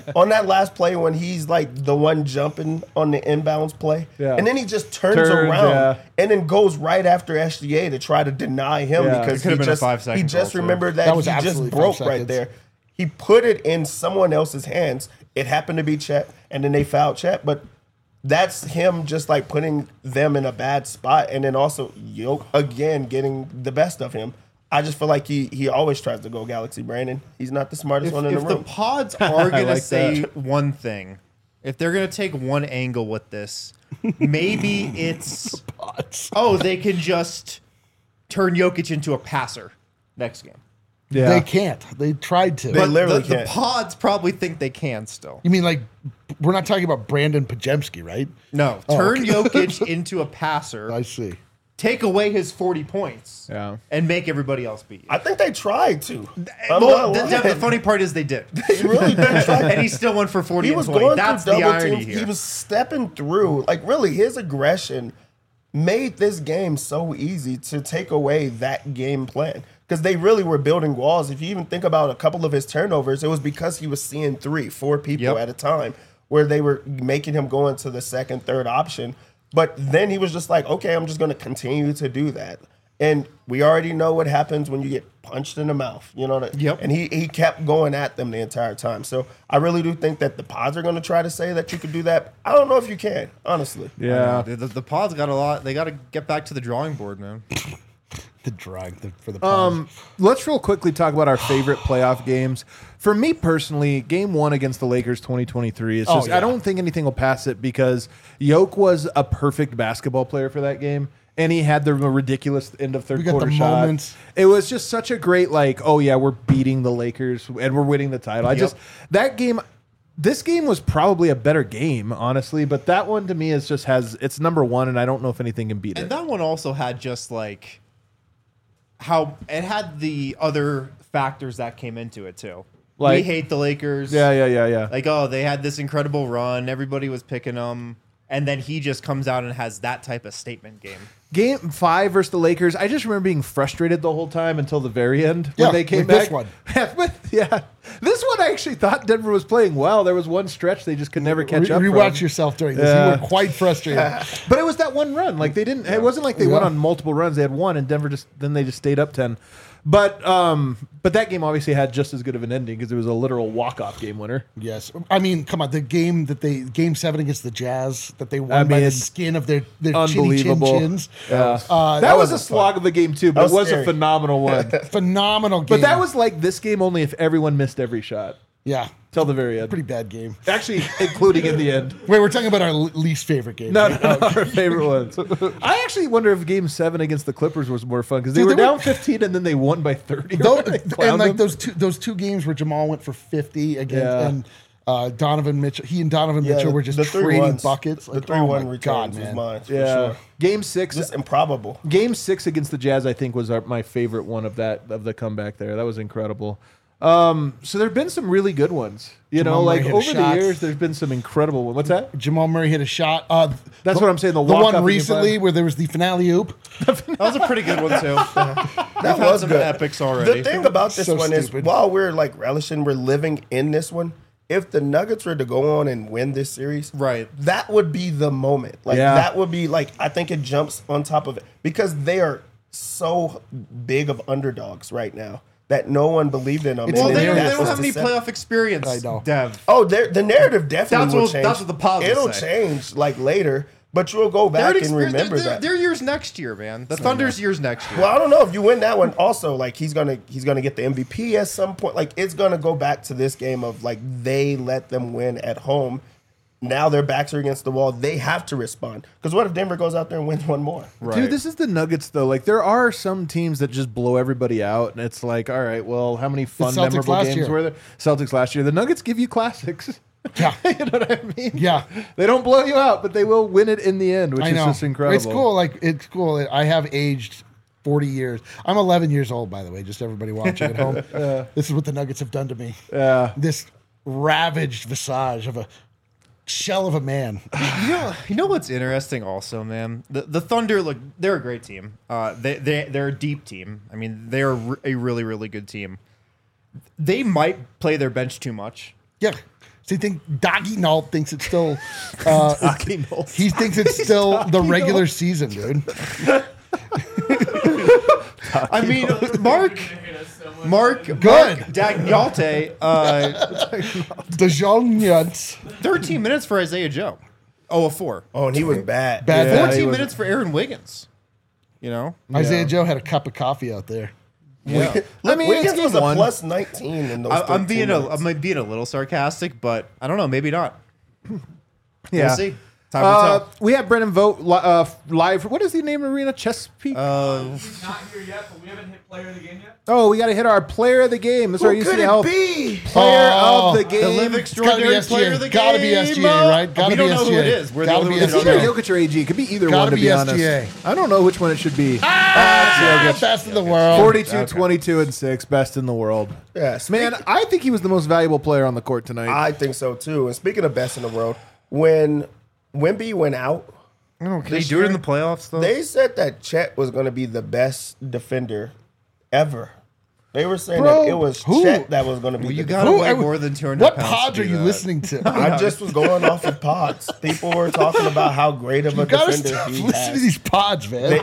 play, when he's like the one jumping on the inbounds play, Yeah. and then he just turns Turns, around yeah. and then goes right after SGA to try to deny him Yeah. because It could've he been a just 5-second he just call, too. remembered That that was he just absolutely 5 broke right seconds. there. He put it in someone else's hands. It happened to be Chet, and then they fouled Chet, but that's him just like putting them in a bad spot, and then also Yoke again getting the best of him. I just feel like he always tries to go Galaxy Brandon. He's not the smartest one in If the the room. pods are going to like say one thing, if they're going to take one angle with this, maybe it's, they can just turn Jokic into a passer next game. Yeah. They can't. They tried to. They literally the can't. pods probably think they can still. You mean like, we're not talking about Brandon Pajemski, right? No, turn Jokic into a passer, I see. take away his 40 points, Yeah. and make everybody else beat you. I think they tried to. I'm Well, not the lying. funny part is they did. They really did try. And he still went for 40 He and was 20. going That's through the double irony teams. here. He was stepping through. Like, really, his aggression made this game so easy to take away that game plan. Because they really were building walls. If you even think about a couple of his turnovers, it was because he was seeing 3-4 people Yep. at a time where they were making him go into the second, third option. But then he was just like, okay, I'm just going to continue to do that. And we already know what happens when you get punched in the mouth. You know that? Yep. And he kept going at them the entire time. So I really do think that the pods are going to try to say that you could do that. I don't know if you can, honestly. Yeah. The pods got a lot. They got to get back to the drawing board, man. The drag for the pause. Let's real quickly talk about our favorite playoff games. For me personally, Game 1 against the Lakers 2023 is just, yeah. I don't think anything will pass it because Yoke was a perfect basketball player for that game. And he had the ridiculous end of third We got quarter the shot. moments. It was just such a great, like, oh yeah, we're beating the Lakers and we're winning the title. This game was probably a better game, honestly, but that one to me is just it's number one, and I don't know if anything can beat And it. that one also had just like how it had the other factors that came into it too. Like- we hate the Lakers. Yeah. Like, oh, they had this incredible run. Everybody was picking them. And then he just comes out and has that type of statement game. Game 5 versus the Lakers, I just remember being frustrated the whole time until the very end when Yeah, they came like back. this one. Yeah. This one I actually thought Denver was playing well. There was one stretch they just could never catch up. Rewatch from. yourself during this. Yeah. You were quite frustrated. But it was that one run. Like they didn't. It wasn't like they went on multiple runs. They had one, and Denver they just stayed up 10. But that game obviously had just as good of an ending because it was a literal walk-off game winner. Yes, I mean, come on, the game Game 7 against the Jazz that they won by mean, the skin of their chinny chin Unbelievable. chins. Yeah. Uh, that was a was slog of a game too, but That it was was a scary. phenomenal one. Phenomenal game. But that was like this game only if everyone missed every shot yeah, till the very end. pretty bad game. Actually, including in the end. Wait, we're talking about our least favorite game. No, our favorite ones. I actually wonder if Game 7 against the Clippers was more fun because they Dude, were they were- down 15 and then they won by 30. And like those two games where Jamal went for 50 again, Yeah. and Donovan Mitchell, he and Donovan Mitchell were just the trading 3-1s. buckets. The Like, 3-1 oh my returns God, was man. mine, for Yeah. sure. Game 6. Just improbable. Game 6 against the Jazz, I think, was my favorite one of the comeback there. That was incredible. So there've been some really good ones. You Jamal know, Murray like hit a over shot. the years, there's been some incredible ones. What's that? Jamal Murray hit a shot. That's what I'm saying, the one walk-up in recently game 5. where there was the finale oop. That was a pretty good one, too. That had was some good. epics already. The thing about this So one is, stupid. while we're like relishing, we're living in this one. if the Nuggets were to go on and win this series, Right. that would be the moment. Like Yeah. that would be like I think it jumps on top of it because they are so big of underdogs right now that no one believed in them. It's Well, And they then don't, that they don't was have any deceptive. playoff experience, I know. Dev. Oh, the narrative definitely That's will what- change. that's what the positives It'll say. change like later, but you'll go back and remember that. Their year's next year, man. The Thunder's year's next year. Well, I don't know if you win that one. Also, like he's gonna get the MVP at some point. Like it's gonna go back to this game of like they let them win at home. Now their backs are against the wall. They have to respond. Because what if Denver goes out there and wins one more? Dude, this is the Nuggets, though. Like, there are some teams that just blow everybody out, and it's like, all right, well, how many fun, Celtics memorable last games year. were there? Celtics last year. The Nuggets give you classics. Yeah. You know what I mean? Yeah. They don't blow you out, but they will win it in the end, which I is know. just incredible. It's cool. Like it's cool. I have aged 40 years. I'm 11 years old, by the way. Just everybody watching at home. This is what the Nuggets have done to me. This ravaged visage of a shell of a man. You know what's interesting also, man? The Thunder, look, they're a great team. They're a deep team. I mean, they're a really, really good team. They might play their bench too much. Yeah. So you think Doggy Nault thinks it's still? Nault. He thinks it's still the regular season, dude. I mean, Mark Good. Dagnalte, Dejoun Yunts. 13 minutes for Isaiah Joe. Oh, a 4. Oh, and he was bad. Bad. Yeah, 14 he was- minutes for Aaron Wiggins. You know? Isaiah Joe had a cup of coffee out there. Yeah. I mean, Wiggins it's was game a one. plus 19 in those. I'm 13 minutes. being a little sarcastic, but I don't know, maybe not. Yeah. We'll see. Time will tell. We have Brennan Vogt live. What is the name of arena? Chesapeake? He's not here yet, but we haven't hit player of the game yet. Oh, we got to hit our player of the game. This is our Who could UCL it be? player Oh, of the game. The live extraordinary SGA. player of the Gotta be game. SGA, right? Gotta we be don't know who SGA. it is. We're the Gotta only be ones that It's don't either know. Jokic or AG. It could be either Gotta one, to be be honest. SGA. I don't know which one it should be. Best in the world. 42, 22, and 6, best in the world. Yeah, Man, I think he was the most valuable player on the court tonight. I think so too. And speaking of best in the world, when Wemby went out, Can he do it in the playoffs, though? they said that Chet was going to be the best defender ever. They were saying Bro, that it was who? Chet that was going to be. Well, you the gotta Who- weigh more than 200 What pounds pods to are do you that. listening to? I just was going off of pods. People were talking about how great of a You gotta defender stop he listening to has. these pods, man.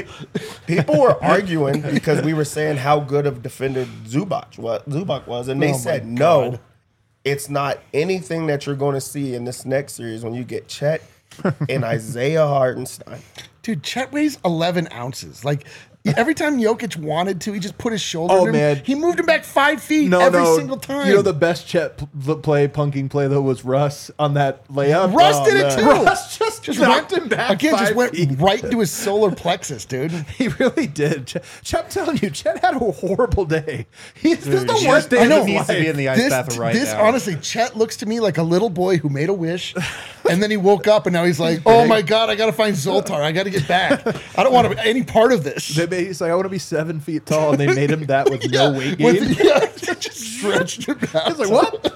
People were arguing because we were saying how good of defender Zubac was, and they Oh my said God. no, it's not anything that you're going to see in this next series when you get Chet and Isaiah Hartenstein. Dude, Chet weighs 11 ounces. Like, every time Jokic wanted to, he just put his shoulder Oh, on him. man. He moved him back 5 feet every single time. You know the best Chet punking play though was Russ on that layup. Russ did it man. too. Russ just knocked him back. Again, just 5 went feet. right into his solar plexus, dude. He really did. I'm telling you, Chet had a horrible day. This is the worst day I of know. his He needs to be life. in the ice bath right now. Honestly, Chet looks to me like a little boy who made a wish, and then he woke up, and now he's like, "Oh my god, I gotta find Zoltar. I gotta get back. I don't want any part of this." He's like, I want to be 7 feet tall, and they made him that with no weight gain. With, just stretched him out. He's like,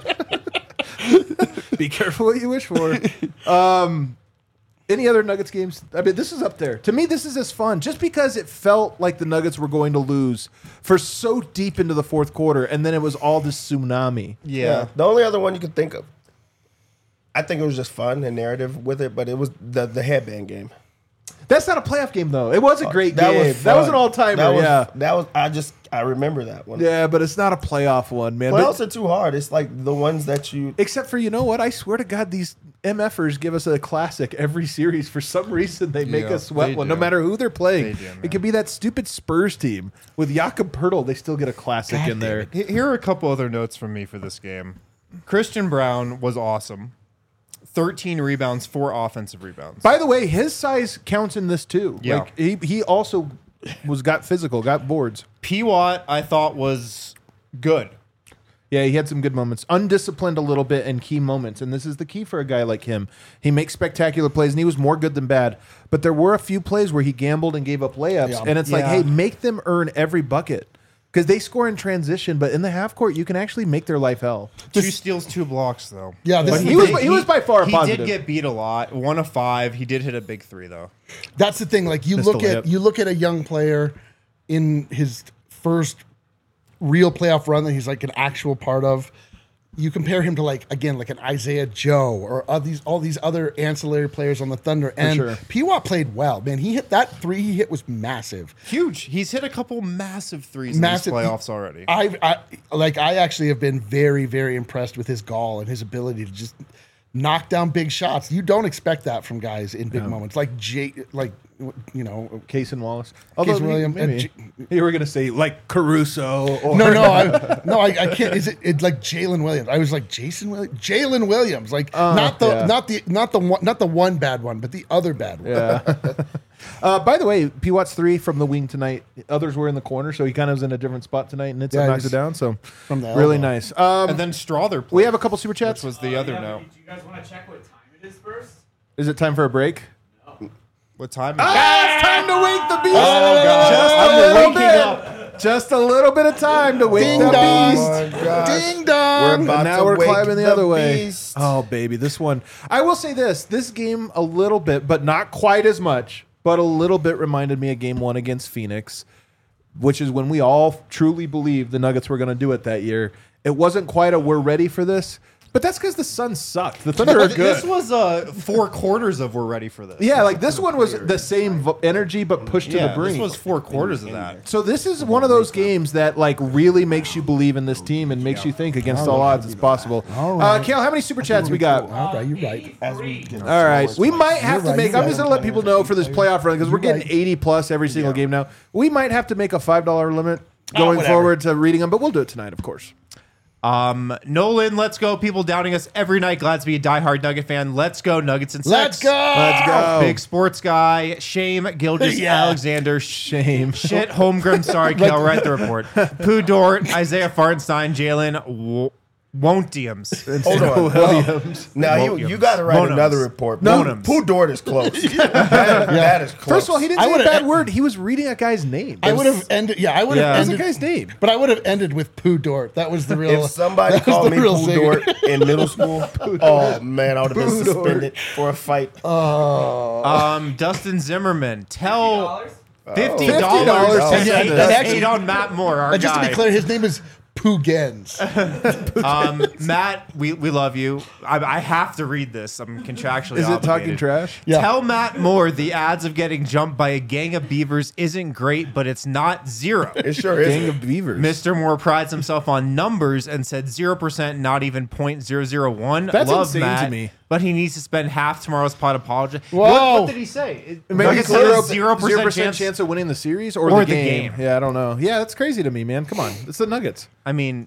what? Be careful what you wish for. Any other Nuggets games? I mean, this is up there. To me, this is as fun just because it felt like the Nuggets were going to lose for so deep into the fourth quarter, and then it was all this tsunami. Yeah. The only other one you could think of, I think it was just fun and narrative with it, but it was the headband game. That's not a playoff game, though. It was a great That game. was That was fun. an all-timer, That was I remember that one. Yeah, but it's not a playoff one, man. Playoffs are too hard. It's like the ones that you. Except for, you know what? I swear to God, these MFers give us a classic every series. For some reason, they make Yeah, us sweat they one, do. no matter who they're playing. They do, man. It could be that stupid Spurs team. With Jakob Pertl, they still get a classic in there. Here are a couple other notes from me for this game. Christian Brown was awesome. 13 rebounds, 4 offensive rebounds. By the way, his size counts in this too. Yeah. Like he also got physical, got boards. P. Watt, I thought, was good. Yeah, he had some good moments. Undisciplined a little bit in key moments. And this is the key for a guy like him. He makes spectacular plays, and he was more good than bad. But there were a few plays where he gambled and gave up layups. Yeah. And it's like, Yeah. hey, make them earn every bucket. Because they score in transition, but in the half court, you can actually make their life hell. 2 steals, 2 blocks, though. Yeah, this But is he the was thing. by far a He positive. did get beat a lot. 1 of 5. He did hit a big 3, though. That's the thing. Like you Missed the look at a young player in his first real playoff run that he's like an actual part of. you compare him to like an Isaiah Joe or all these other ancillary players on the Thunder, and sure. P-Watt played well. Man, he hit that three he hit was massive. Huge. He's hit a couple massive threes in these playoffs already. I actually have been very, very impressed with his gall and his ability to just knock down big shots. You don't expect that from guys in big moments, like Case and Wallace. Case Williams. Maybe. You were going to say like Caruso. Or I can't. Is it like Jalen Williams? I was like Jason Williams, Jalen Williams, like not the one bad one, but the other bad one. Yeah. By the way, P-Watt's 3 from the wing tonight. Others were in the corner, so he kind of was in a different spot tonight, and it's knocked it down. So from the really elbow. nice. And then Strother played. We have a couple super chats. Which was the other note. Do you guys want to check what time it is first? Is it time for a break? What time? It's time to wake the beast. God. Just a little bit of time to wake Ding the dong. beast. Oh my gosh. Ding dong. We're about And now to we're wake climbing the other way. beast. Oh, baby, this one. I will say this game a little bit, but not quite as much, but a little bit reminded me of game 1 against Phoenix, which is when we all truly believed the Nuggets were going to do it that year. It wasn't quite a we're ready for this, but that's because the Suns sucked. The Thunder are good. This was 4 quarters of we're ready for this. Yeah, like this one was the same energy, but pushed to the brink. This was 4 quarters of that. So this is one of those games that like really makes you believe in this team and makes you think against all odds it's possible. All right. Kale, how many super chats we got? All right, you're right. All right, we might have to right, make. you're I'm just right. gonna let people know for this playoff run because we're You're getting right. 80 plus every single game now. We might have to make a $5 limit going whatever. forward to reading them, but we'll do it tonight, of course. Nolan, let's go. People doubting us every night. Glad to be a diehard Nugget fan. Let's go, Nuggets and Let's Sex. go. Let's go. Big sports guy. Shame, Gilgis, Yeah. Alexander. Shame. Shit, Holmgren. Sorry, Kel. Write the report. Pooh Dort, Isaiah Fartenstein, Jalen Wontiums. Hold on. Williams. Now you got to write Bonums. another report. Bonums. Pooh Dort is close. that is close. First of all, he didn't I say a would've- bad word. He was reading a guy's name. I would have ended. Yeah, I would have Yeah. What's the ended. guy's name? But I would have ended with Pooh Dort. That was the real. If somebody that was called the me real Pooh singer. Dort in middle school, oh man, I would have been Pooh Dort. suspended for a fight. Dustin Zimmerman. Tell $50 $50 to to hate, send us. hate on Matt Moore, our And just to guy. be clear, his name is Pooh Gens. Matt, we love you. I have to read this. I'm contractually Is it obligated. talking trash? Yeah. Tell Matt Moore the odds of getting jumped by a gang of beavers isn't great, but it's not zero. It sure is. Gang of beavers. Mr. Moore prides himself on numbers and said 0%, not even 0.001. That's Love insane Matt, to me. But he needs to spend half tomorrow's pot apologizing. Whoa. What did he say? Maybe Nuggets it's have a 0% chance of winning the series or the game. Yeah, I don't know. Yeah, that's crazy to me, man. Come on. It's the Nuggets. I mean,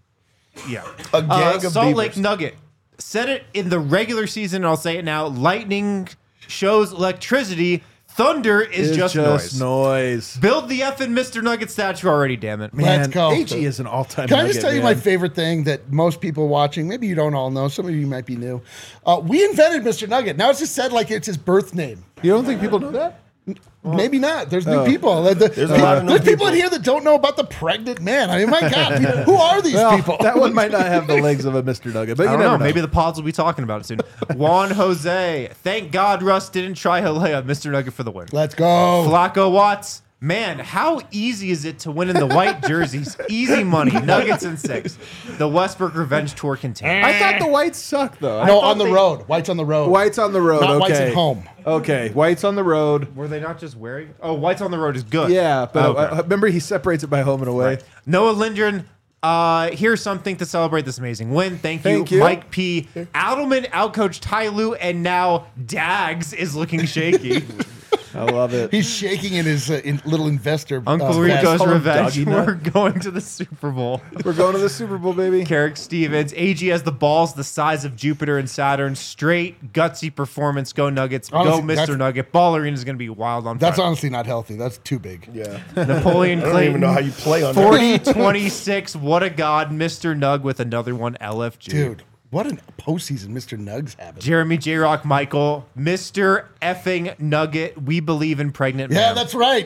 yeah. A gang of Salt beavers. Lake Nugget. Said it in the regular season, and I'll say it now. Lightning shows electricity. Thunder is It's just noise. noise. Build the effing Mr. Nugget statue already, damn it. Man, Let's go. AG is an all-time Can I just Nugget, tell you man. my favorite thing that most people watching, maybe you don't all know, some of you might be new. We invented Mr. Nugget. Now it's just said like it's his birth name. You don't think people know that? Maybe not. There's new people. There's a lot of new There's people in people. here that don't know about the pregnant man. I mean, my God, who are these Well, people? that one might not have the legs of a Mr. Nugget, but I you don't never know. Maybe the pods will be talking about it soon. Juan Jose. Thank God Russ didn't try Halea, Mr. Nugget for the win. Let's go. Flacco Watts. Man, how easy is it to win in the white jerseys? Easy money. Nuggets and 6. The Westbrook Revenge Tour continues. I thought the Whites sucked, though. No, thought on the they- road. White's on the road. Whites on the road. Not okay. White's at home. Okay, Whites on the road. Were they not just wearing? Oh, Whites on the Road is good. Yeah, but Okay. remember he separates it by home and away. Right. Noah Lindgren. Here's something to celebrate this amazing win. Thank you, Thank you. Mike P. Adelman outcoached Ty Lue, and now Dags is looking shaky. I love it. He's shaking in his little investor. Uncle vest. Rico's call him revenge. Doggy Nut. We're going to the Super Bowl. We're going to the Super Bowl, baby. Carrick Stevens. AG has the balls the size of Jupiter and Saturn. Straight, gutsy performance. Go Nuggets. Honestly, Go that's- Mr. Nugget. Ball Arena is going to be wild on That's Friday. honestly not healthy. That's too big. Yeah. Napoleon I don't Clayton. even know how you play on that. 40-26. What a god. Mr. Nug with another one. LFG. Dude, what a postseason Mr. Nugg's having. Jeremy J. Rock Michael. Mr. effing Nugget. We believe in pregnant Yeah, man. that's right.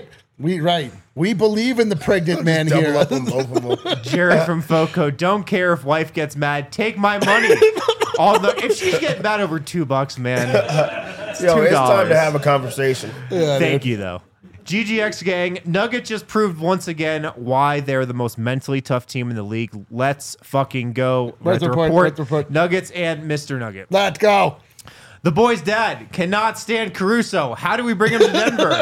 We believe in the pregnant man here. Double up on both of them. Jared from Foco. Don't care if wife gets mad. Take my money. If she's getting mad over $2, man. Yo, it's time $2. to have a conversation. Yeah, Thank you, though. GGX gang, Nuggets just proved once again why they're the most mentally tough team in the league. Let's fucking go. Right Let the report. Nuggets and Mr. Nugget. Let's go. The boy's dad cannot stand Caruso. How do we bring him to Denver?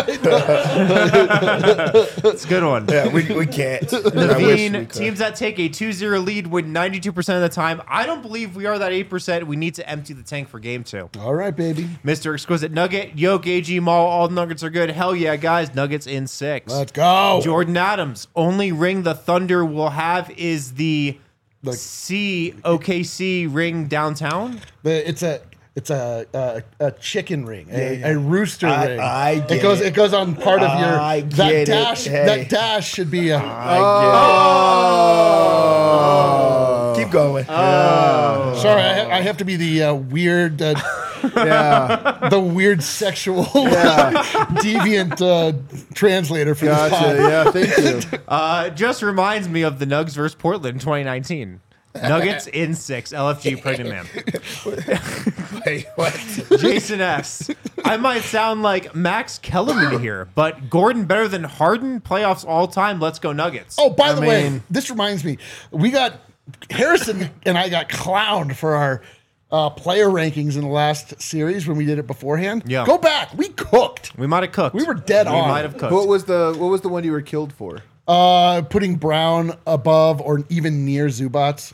It's a good one. Yeah, we can't. I wish we Naveen, could. teams that take a 2-0 lead win 92% of the time. I don't believe we are that 8%. We need to empty the tank for game 2. All right, baby. Mr. Exquisite Nugget, Yoke, AG Mall, all the Nuggets are good. Hell yeah, guys. Nuggets in 6. Let's go. Jordan Adams, only ring the Thunder will have is the OKC ring downtown. It's a chicken ring, a rooster ring. I get It goes on part of your I that get it. dash. Hey. That dash should be a. Keep going. Sorry, I have to be the weird, the weird sexual deviant translator for this pod. Yeah, thank you. Just reminds me of the Nugs versus Portland in 2019. Nuggets in 6. LFG pregnant man. Wait, what? Jason S. I might sound like Max Kellerman here, but Gordon better than Harden? Playoffs all time. Let's go Nuggets. Oh, by the way, this reminds me, we got Harrison and I got clowned for our player rankings in the last series when we did it beforehand. Yeah. Go back. We cooked. We might have cooked. We were dead on. We might have cooked. What was the one you were killed for? Putting Brown above or even near Zubats.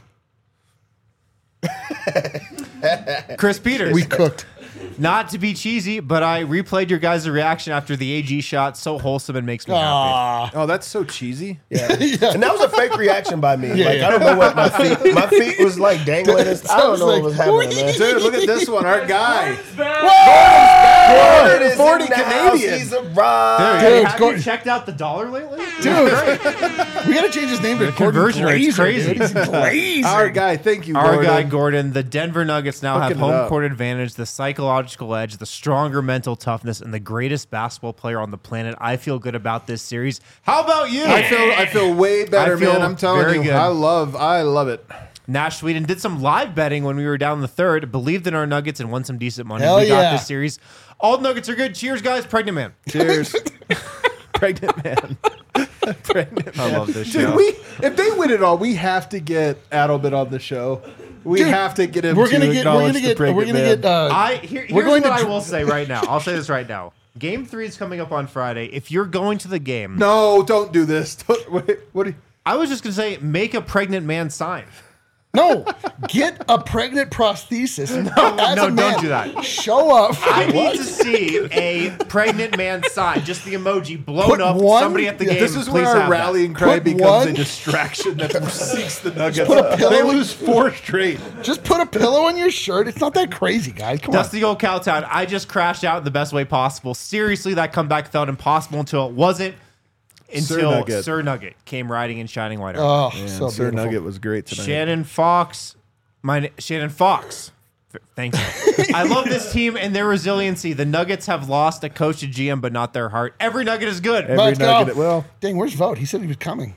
Chris Peters. We cooked. Not to be cheesy, but I replayed your guys' reaction after the AG shot. So wholesome and makes me happy. Oh, that's so cheesy. And that was a fake reaction by me. Yeah, like yeah. I don't know what my feet was like dangling. I don't know what was happening, man. Dude, look at this one. Our guy. Gordon is 40 in the house. Canadian. He's arrived. Dude, Have Gordon- you checked out the dollar lately? Dude, we gotta change his name to Gordon conversion rate's Glazer, crazy. dude. He's Glazer. Our guy. Thank you, Our Gordon. guy Gordon, the Denver Nuggets now have Hooking it home up. court advantage, the psychological edge, the stronger mental toughness, and the greatest basketball player on the planet. I feel good about this series. How about you? I feel way better, I feel man. I'm telling very you. good. I love it. Nash Sweden did some live betting when we were down in the third, believed in our Nuggets, and won some decent money. Hell we got yeah. this series. All Nuggets are good. Cheers, guys. Pregnant man. Cheers. Pregnant man. Pregnant man. I love this Dude, show. if they win it all, we have to get Adelbit on the show. We Dude, have to get him We're to gonna get. We're acknowledge gonna the get. We're pregnant gonna man. get. Here's We're going what to I will say right now. I'll say this right now. Game 3 is coming up on Friday. If you're going to the game, No, don't do this. Wait, what do you... I was just going to say, make a pregnant man sign. No, get a pregnant prosthesis. No, don't do that. Show up. I need to see a pregnant man sign, just the emoji blown Put up. one- Somebody at the game. This is please where our have that. rallying cry Put becomes one- a distraction that seeks the Nuggets. put a pillow- They lose 4 straight. Just put a pillow on your shirt. It's not that crazy, guys. Come on. Dusty old Cowtown. I just crashed out in the best way possible. Seriously, that comeback felt impossible until it wasn't. Until Sir Nugget came riding in shining white armor. Oh, so Sir beautiful. Nugget was great tonight. Shannon Fox. Shannon Fox. Thank you. I love this team and their resiliency. The Nuggets have lost a coach and GM, but not their heart. Every Nugget is good. Every Let's go. Nugget. Well, Dang, where's Vote? He said he was coming.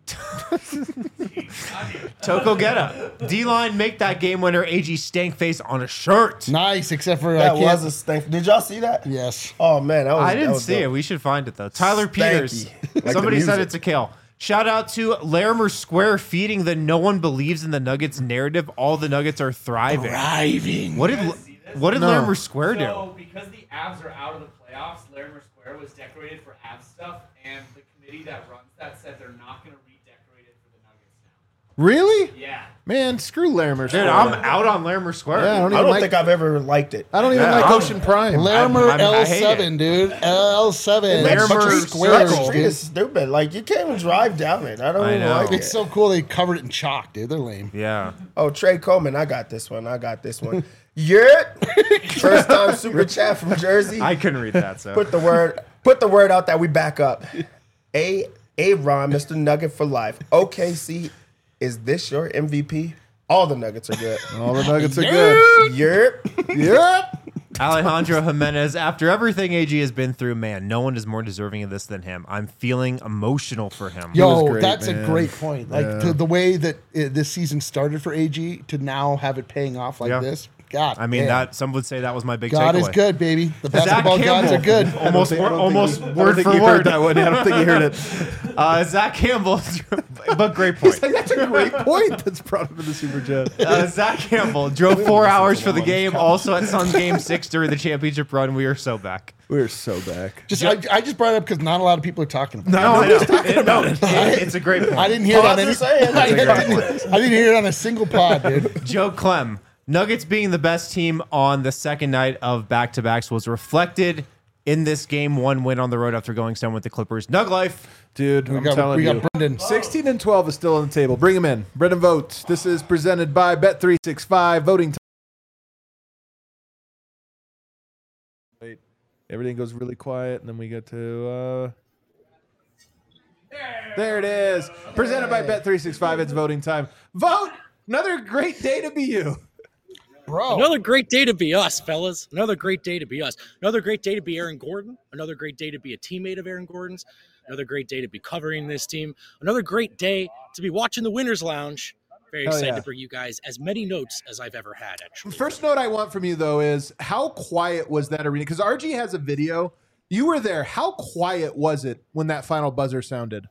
Toko Getta. D-line make that game winner AG stank face on a shirt. Nice, except for That I can't. was a stank. Did y'all see that? Yes. Oh man, that was. I that didn't was see dope. it. We should find it though. Tyler Stanky. Peters. Like the Somebody said music. it's a Kale. Shout out to Larimer Square feeding the no one believes in the Nuggets narrative. All the Nuggets are thriving. Driving. What did No. Larimer Square do? So, because the Avs are out of the playoffs, Larimer Square was decorated for Avs stuff, and the committee that runs that said they're not going to redecorate it for the Nuggets now. really? Yeah. Man, screw Larimer. Dude, I'm out on Larimer Square. Yeah, I don't I even don't like. think I've ever liked it. I don't even Yeah, like I'm- Ocean Prime. Larimer I hate L7, dude. L7. Larimer Bunch of Circle. squares, That street dude. is stupid. Like you can't even drive down it. I don't I even know. like it. It's so cool they covered it in chalk, dude. They're lame. Yeah. Oh, Trey Coleman, I got this one. Yeah. First time super chat from Jersey. I couldn't read that, so. Put the word out that we back up. Ron, Mr. Nugget for life. OKC, is this your MVP? All the Nuggets are good. All the Nuggets are good. Yep. Yep. Alejandro Jimenez, after everything AG has been through, man, no one is more deserving of this than him. I'm feeling emotional for him. Yo, was great, that's man. a great point. Like to the way that this season started for AG to now have it paying off like Yeah. this. God, I mean, damn. some would say that was my big God takeaway. is good, baby. The Zach basketball gods are Campbell. good. Almost word for you word. heard that one. I don't think you heard it. Zach Campbell, but great point. That's a great point. That's brought him to the super chat. Zach Campbell drove 4 hours for the game. Also at Suns Game 6 during the championship run. We are so back. We're so back. I just brought it up because not a lot of people are talking about it. It's a great point. I didn't hear it on any. saying. I didn't hear it on a single pod, dude. Joe Clem, Nuggets being the best team on the second night of back-to-backs was reflected in this Game 1 win on the road after going 7 with the Clippers. Nug life. Dude, I'm telling We you. got Brendan. 16 and 12 is still on the table. Bring him in. Brendan votes. This is presented by Bet365. Voting time. Wait. Everything goes really quiet, and then we get to... There it is. Presented by Bet365. It's voting time. Vote! Another great day to be you. Bro. Another great day to be us, fellas. Another great day to be us. Another great day to be Aaron Gordon. Another great day to be a teammate of Aaron Gordon's. Another great day to be covering this team. Another great day to be watching the Winners Lounge. Very Hell excited yeah. to bring you guys as many notes as I've ever had, actually. First note I want from you, though, is how quiet was that arena? Because RG has a video. You were there. How quiet was it when that final buzzer sounded?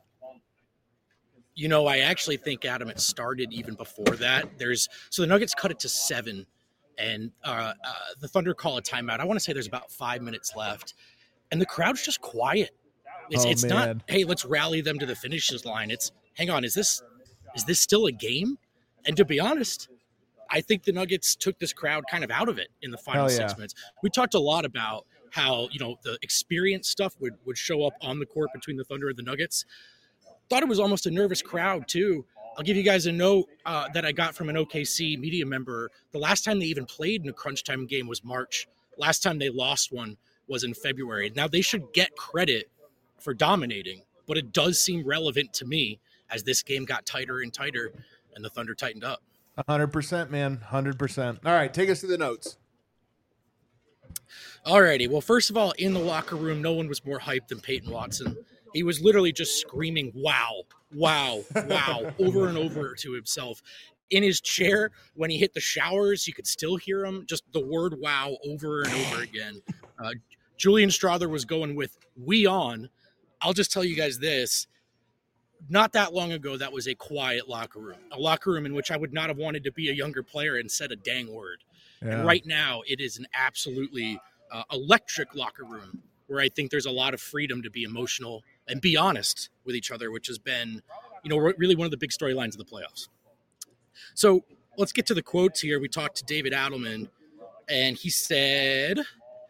You know, I actually think, Adam, it started even before that. So the Nuggets cut it to 7, and the Thunder call a timeout. I want to say there's about 5 minutes left, and the crowd's just quiet. It's not, man. hey, let's rally them to the finishes line. It's, hang on, is this still a game? And to be honest, I think the Nuggets took this crowd kind of out of it in the final Hell yeah. 6 minutes. We talked a lot about how, the experience stuff would show up on the court between the Thunder and the Nuggets. Thought it was almost a nervous crowd, too. I'll give you guys a note that I got from an OKC media member. The last time they even played in a crunch time game was March. Last time they lost one was in February. Now, they should get credit for dominating, but it does seem relevant to me as this game got tighter and tighter and the Thunder tightened up. 100%, man. 100%. All right, take us to the notes. Alrighty. Well, first of all, in the locker room, no one was more hyped than Peyton Watson. He was literally just screaming, wow, wow, wow, over and over to himself. In his chair, when he hit the showers, you could still hear him, just the word wow over and over again. Julian Strother was going with "we on." I'll just tell you guys this. Not that long ago, that was a quiet locker room in which I would not have wanted to be a younger player and said a dang word. Yeah. And right now, it is an absolutely electric locker room where I think there's a lot of freedom to be emotional and be honest with each other, which has been, really one of the big storylines of the playoffs. So let's get to the quotes here. We talked to David Adelman, and he said,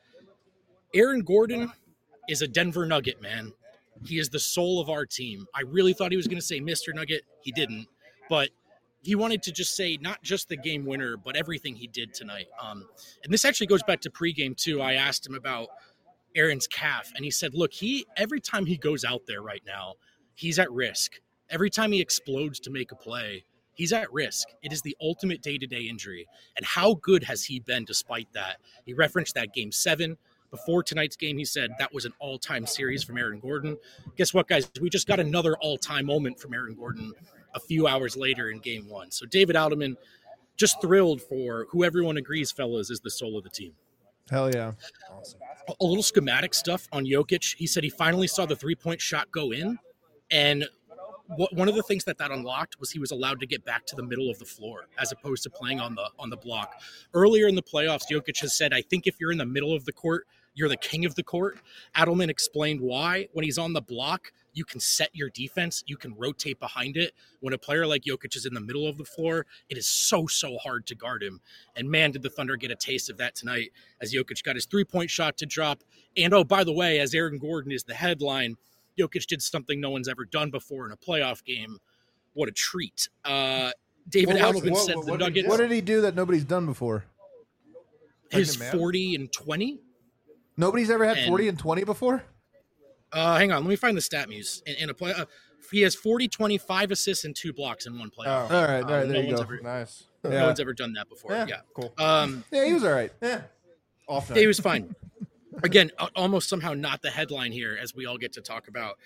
Aaron Gordon is a Denver Nugget, man. He is the soul of our team. I really thought he was going to say Mr. Nugget. He didn't. But he wanted to just say not just the game winner, but everything he did tonight. And this actually goes back to pregame, too. I asked him about Aaron's calf, and he said, look, every time he goes out there right now, he's at risk. Every time he explodes to make a play, he's at risk. It is the ultimate day-to-day injury. And how good has he been despite that? He referenced that Game 7. Before tonight's game, he said that was an all-time series from Aaron Gordon. Guess what, guys? We just got another all-time moment from Aaron Gordon a few hours later in Game 1. So David Adelman, just thrilled for who everyone agrees, fellas, is the soul of the team. Hell yeah. A little schematic stuff on Jokic. He said he finally saw the three-point shot go in, and one of the things that unlocked was he was allowed to get back to the middle of the floor as opposed to playing on the block. Earlier in the playoffs, Jokic has said, I think if you're in the middle of the court, you're the king of the court. Adelman explained why. When he's on the block, you can set your defense. You can rotate behind it. When a player like Jokic is in the middle of the floor, it is so hard to guard him. And man, did the Thunder get a taste of that tonight as Jokic got his three-point shot to drop. And oh, by the way, as Aaron Gordon is the headline, Jokic did something no one's ever done before in a playoff game. What a treat. David Adelman said the Nuggets. What did he do that nobody's done before? His 40 and 20. Nobody's ever had 40 and 20 before? Hang on. Let me find the stat muse. In a play, he has 40, 20, 5 assists, and 2 blocks in one playoff. All right, there you go. Nice. No one's ever done that before. Yeah. Cool. Yeah, he was all right. Yeah. He was fine. Again, almost somehow not the headline here, as we all get to talk about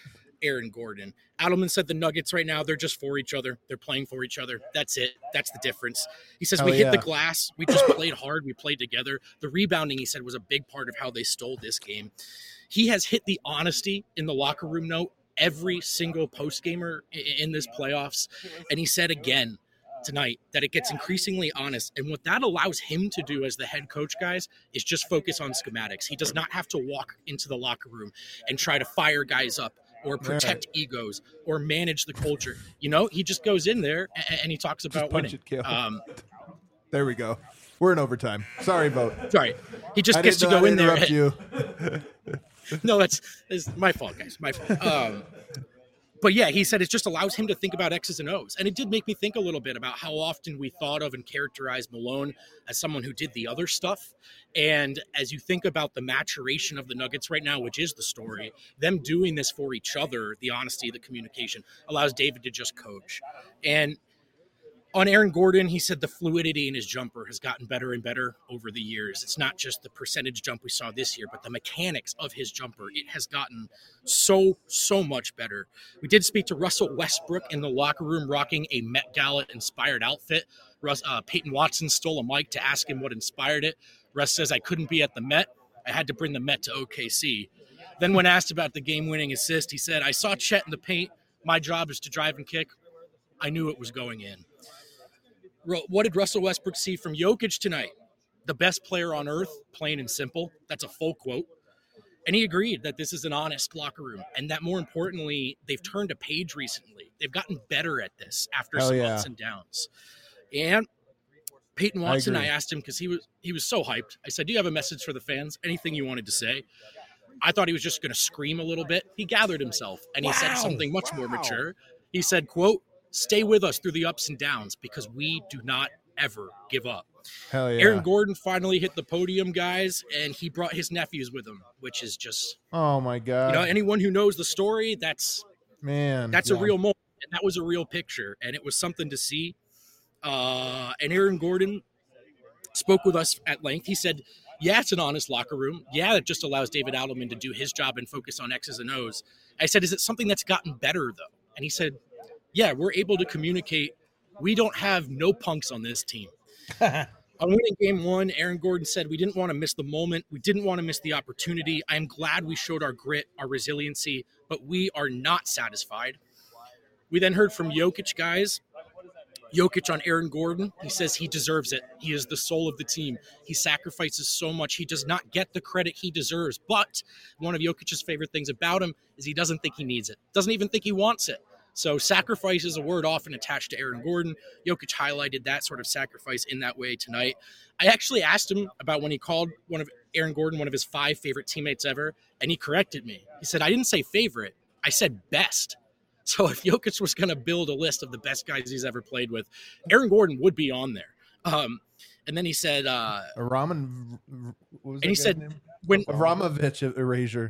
Aaron Gordon. Adelman said the Nuggets right now, they're just for each other. They're playing for each other. That's it. That's the difference. He says, Hell we hit the yeah. glass. We just played hard. We played together. The rebounding, he said, was a big part of how they stole this game. He has hit the honesty in the locker room note every single post-gamer in this playoffs. And he said again tonight that it gets increasingly honest. And what that allows him to do as the head coach, guys, is just focus on schematics. He does not have to walk into the locker room and try to fire guys up or protect egos or manage the culture. You know, he just goes in there and he talks about punch winning. it, kill. There we go. We're in overtime. Sorry, Vote. Sorry. He just I gets to didn't know go I'd in there. interrupt you. No, that's my fault, guys. My fault. But yeah, he said it just allows him to think about X's and O's. And it did make me think a little bit about how often we thought of and characterized Malone as someone who did the other stuff. And as you think about the maturation of the Nuggets right now, which is the story, them doing this for each other, the honesty, the communication, allows David to just coach. And on Aaron Gordon, he said the fluidity in his jumper has gotten better and better over the years. It's not just the percentage jump we saw this year, but the mechanics of his jumper. It has gotten so much better. We did speak to Russell Westbrook in the locker room rocking a Met Gala-inspired outfit. Peyton Watson stole a mic to ask him what inspired it. Russ says, I couldn't be at the Met. I had to bring the Met to OKC. Then when asked about the game-winning assist, he said, I saw Chet in the paint. My job is to drive and kick. I knew it was going in. What did Russell Westbrook see from Jokic tonight? The best player on earth, plain and simple. That's a full quote. And he agreed that this is an honest locker room and that more importantly, they've turned a page recently. They've gotten better at this after some ups and downs. And Peyton Watson, I asked him because he was so hyped. I said, do you have a message for the fans? Anything you wanted to say? I thought he was just going to scream a little bit. He gathered himself and he said something much more mature. He said, quote, stay with us through the ups and downs because we do not ever give up. Hell yeah. Aaron Gordon finally hit the podium, guys, and he brought his nephews with him, which is just, oh my God. you know, anyone who knows the story, that's a real moment. And that was a real picture, and it was something to see. And Aaron Gordon spoke with us at length. He said, yeah, it's an honest locker room. Yeah, it just allows David Adelman to do his job and focus on X's and O's. I said, is it something that's gotten better, though? And he said, yeah, we're able to communicate. We don't have no punks on this team. On winning game one, Aaron Gordon said, we didn't want to miss the moment. We didn't want to miss the opportunity. I'm glad we showed our grit, our resiliency, but we are not satisfied. We then heard from Jokic, guys. Jokic on Aaron Gordon. He says he deserves it. He is the soul of the team. He sacrifices so much. He does not get the credit he deserves. But one of Jokic's favorite things about him is he doesn't think he needs it. Doesn't even think he wants it. So sacrifice is a word often attached to Aaron Gordon. Jokic highlighted that sort of sacrifice in that way tonight. I actually asked him about when he called one of Aaron Gordon one of his 5 favorite teammates ever, and he corrected me. He said, I didn't say favorite. I said best. So if Jokic was going to build a list of the best guys he's ever played with, Aaron Gordon would be on there. And then he said, Raman, what was and he said, name? when Abramovich erasure.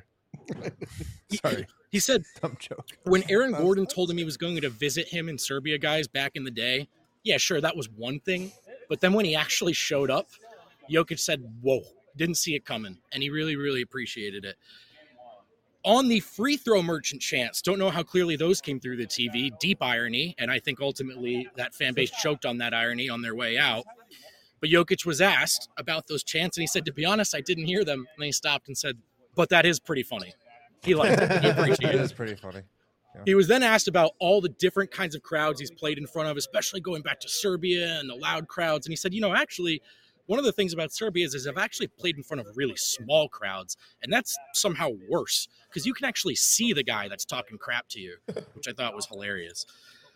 Sorry. He said, Dumb joke. when Aaron Gordon told him he was going to visit him in Serbia, guys, back in the day, yeah, sure, that was one thing. But then when he actually showed up, Jokic said, whoa, didn't see it coming. And he really, really appreciated it. On the free throw merchant chants, don't know how clearly those came through the TV. Deep irony, and I think ultimately that fan base choked on that irony on their way out. But Jokic was asked about those chants, and he said, to be honest, I didn't hear them. And then he stopped and said, but that is pretty funny. He liked it. He appreciated it. It is pretty funny. He was then asked about all the different kinds of crowds he's played in front of, especially going back to Serbia and the loud crowds. And he said, you know, actually, one of the things about Serbia is I've actually played in front of really small crowds, and that's somehow worse because you can actually see the guy that's talking crap to you, which I thought was hilarious.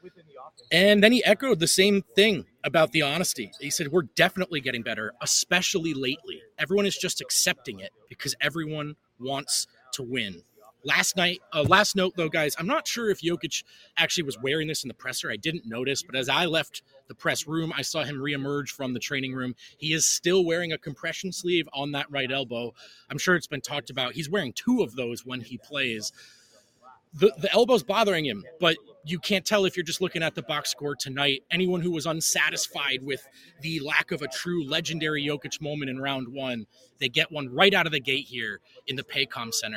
And then he echoed the same thing about the honesty. He said, we're definitely getting better, especially lately. Everyone is just accepting it because everyone wants to win. Last note, though, guys, I'm not sure if Jokic actually was wearing this in the presser. I didn't notice, but as I left the press room, I saw him reemerge from the training room. He is still wearing a compression sleeve on that right elbow. I'm sure it's been talked about. He's wearing 2 of those when he plays. The elbow's bothering him, but you can't tell if you're just looking at the box score tonight. Anyone who was unsatisfied with the lack of a true legendary Jokic moment in round 1, they get one right out of the gate here in the Paycom Center.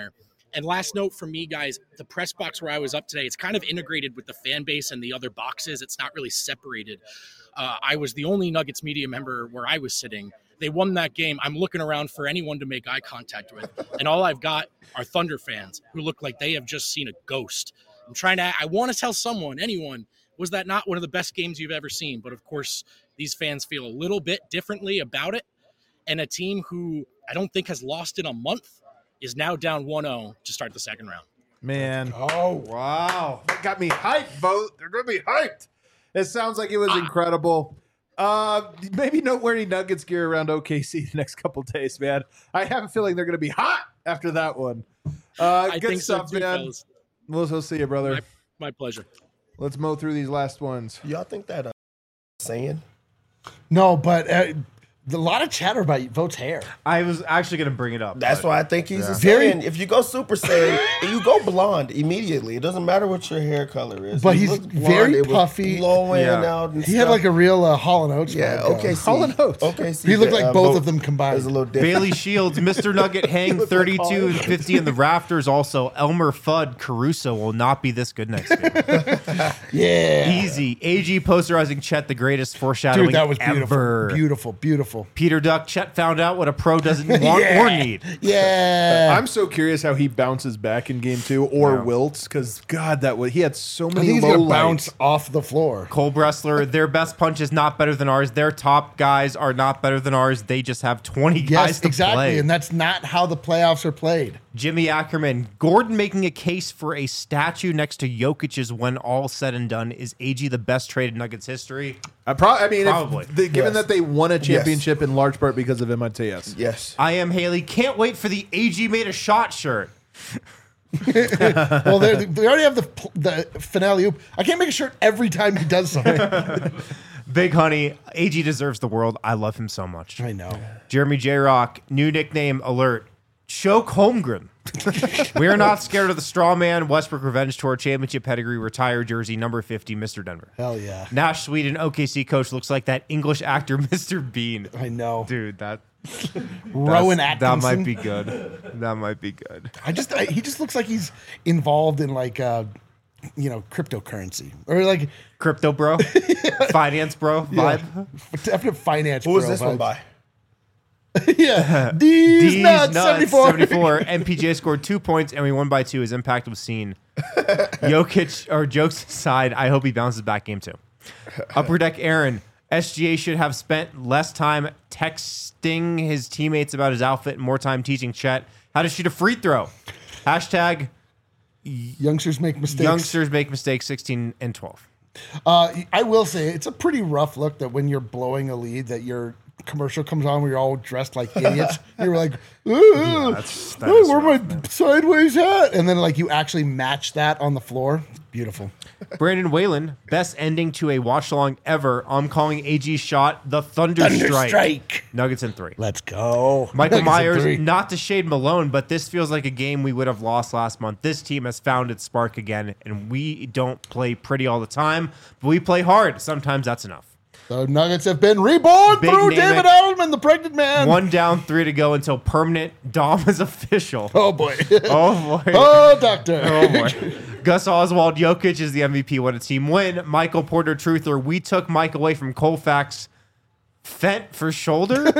And last note from me, guys, the press box where I was up today, it's kind of integrated with the fan base and the other boxes. It's not really separated. I was the only Nuggets media member where I was sitting. They won that game. I'm looking around for anyone to make eye contact with. And all I've got are Thunder fans who look like they have just seen a ghost. I want to tell anyone, was that not one of the best games you've ever seen? But of course, these fans feel a little bit differently about it. And a team who I don't think has lost in a month is now down 1-0 to start the second round. Man. Oh, Wow. That got me hyped, Vote. They're going to be hyped. It sounds like it was incredible. Maybe noteworthy Nuggets gear around OKC the next couple days, man. I have a feeling they're going to be hot after that one. I good think stuff, so too, man. fellas. We'll see you, brother. My pleasure. Let's mow through these last ones. Y'all think that saying? no, but a lot of chatter about Vote's hair. I was actually going to bring it up. That's but- why I think he's a Very- Saiyan. If you go Super Saiyan, you go blonde immediately. It doesn't matter what your hair color is. But He he's looked blonde, very it was puffy. flowing Yeah. out and He had stuff. like a real Hall & Oates. yeah. vibe going. Okay, Hall & Oates. Okay, He looked like both of them combined. There's a little different. Bailey Shields, Mr. Nugget hang 32 and 50 in the rafters. Also, Elmer Fudd Caruso will not be this good next game. Yeah. Easy. AG posterizing Chet, the greatest foreshadowing Dude, that was beautiful. ever. Beautiful, beautiful. Peter Duck, Chet found out what a pro doesn't want or need. Yeah. I'm so curious how he bounces back in game 2 or wilts, because God, he had so I many think he's low going to bounce lights. off the floor. Cole Bressler, their best punch is not better than ours. Their top guys are not better than ours. They just have 20 guys Yes, to exactly. play. And that's not how the playoffs are played. Jimmy Ackerman, Gordon making a case for a statue next to Jokic's when all said and done. Is AG the best trade in Nuggets history? Probably. Probably. Given Yes. that they won a championship in large part because of him, I'd say yes. Yes. I am Haley. Can't wait for the AG made a shot shirt. Well, they already have the finale oop. I can't make a shirt every time he does something. Big Honey, AG deserves the world. I love him so much. I know. Jeremy J. Rock, new nickname alert. Choke Holmgren. We're not scared of the straw man. Westbrook Revenge Tour Championship pedigree retired jersey number 50, Mr. Denver. Hell yeah. Nash Sweden, OKC coach, looks like that English actor, Mr. Bean. I know. Dude, that Rowan that Atkinson. might be good. That might be good. He just looks like he's involved in like cryptocurrency or like Crypto bro, finance bro vibe. definite finance. Who was bro this one vibes. by? Yeah, these nuts 74. MPJ scored 2 points and we won by 2. His impact was seen. Jokic, or jokes aside, I hope he bounces back game 2. Upper Deck Aaron, SGA should have spent less time texting his teammates about his outfit and more time teaching Chet how to shoot a free throw. Hashtag Youngsters make mistakes. youngsters make mistakes 16 and 12. I will say it's a pretty rough look that when you're blowing a lead that your commercial comes on where you're all dressed like idiots. You're like, ooh, that oh, is where rough, my sideways hat? And then like you actually match that on the floor. It's beautiful. Brandon Whalen, best ending to a watch along ever. I'm calling AG's shot the Thunder Strike. Nuggets in 3. Let's go. Michael Nuggets in Myers, 3. not to shade Malone, but this feels like a game we would have lost last month. This team has found its spark again, and we don't play pretty all the time, but we play hard. Sometimes that's enough. The Nuggets have been reborn Big through Namek. David Edelman, the pregnant man. 1 down, 3 to go until permanent Dom is official. Oh boy. Oh, boy. Oh, doctor. Oh, boy. Gus Oswald, Jokic is the MVP when a team win. Michael Porter Truther, we took Mike away from Colfax. Fent for shoulder?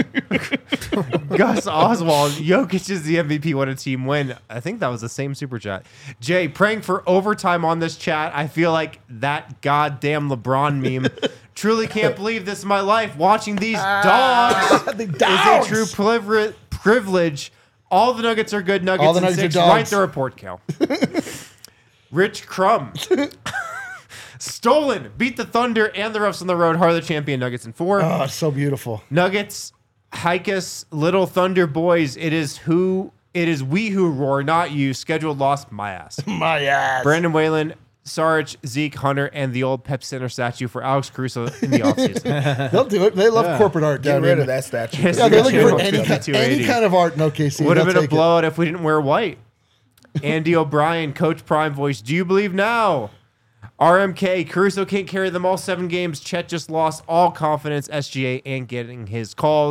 Gus Oswald, Jokic is the MVP when a team win. I think that was the same super chat. Jay, praying for overtime on this chat. I feel like that goddamn LeBron meme. Truly can't believe this is my life. Watching these dogs The is a dogs. true privilege. All the Nuggets are good Nuggets. All the in Nuggets are 6. dogs. Write the report, Cal. Rich Crumb. Stolen. Beat the Thunder and the Roughs on the road. Harder champion Nuggets in 4. Oh, so beautiful. Nuggets, Hikus, Little Thunder boys. It is we who roar, not you. Scheduled loss, my ass. My ass. Brandon Whalen, Sarge, Zeke, Hunter, and the old Pep Center statue for Alex Caruso in the offseason. They'll do it. They love corporate art Get down rid here. of that statue. Yes, Yeah, they're looking for Channel any 5280. kind of art in OKC. Would have They'll been a take it. blowout if we didn't wear white. Andy O'Brien, Coach Prime voice. Do you believe now? RMK, Caruso can't carry them all 7 games. Chet just lost all confidence, SGA, and getting his calls.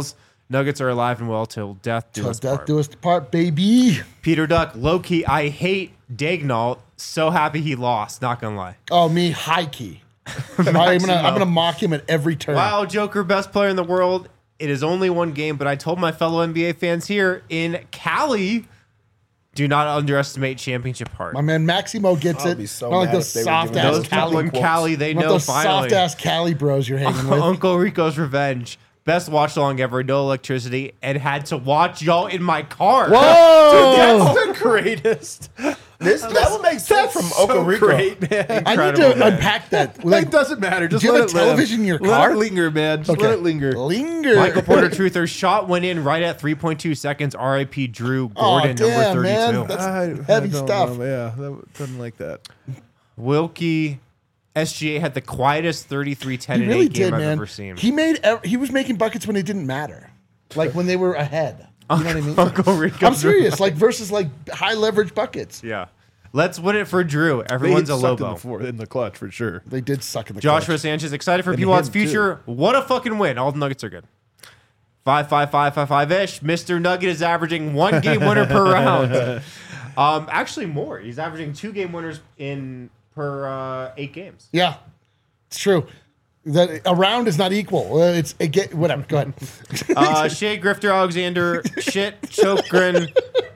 Nuggets are alive and well till death do Till us death part. do us part, baby. Peter Duck, low-key, I hate Dagnall. So happy he lost, not gonna lie. Oh, me, high key. I'm gonna mock him at every turn. Wow, Joker, best player in the world. It is only one game, but I told my fellow NBA fans here in Cali, do not underestimate championship heart. My man Maximo gets I'll it. be so Not like mad those if they were soft giving ass Those people Cali. in Cali, they Not know those finally. soft ass Cali bros you're hanging with. Uncle Rico's Revenge. Best watch along ever, no electricity, and had to watch y'all in my car. Whoa! That's the greatest. That would make sense from Uncle Rico. Great, man. I need Incredible, to man. unpack that. It doesn't matter. Just do you let have a it live. television in your Let car? it linger, man. Just let it linger. Linger. Michael Porter Truther shot went in right at 3.2 seconds. RIP Drew Oh, Gordon, damn, number 32. man. That's heavy stuff. Yeah, that doesn't like that. Wilkie SGA had the quietest 33-10 He in really 8 game did, I've man. ever seen. He was making buckets when it didn't matter, like when they were ahead. You know what I mean? Uncle Rico. I'm serious. Like versus like high leverage buckets. Yeah. Let's win it for Drew. Everyone's a Lobo. in the clutch for sure. They did suck in the Joshua clutch. Sanchez excited for And P-Wat's him, too. future. What a fucking win. All the Nuggets are good. 5-5-5-5-5-ish. Mr. Nugget is averaging 1 game winner per round. Actually more. He's averaging 2 game winners per 8 games. Yeah, it's true. That a round is not equal. Whatever. Go ahead. Shea Grifter Alexander, shit, Chokrin,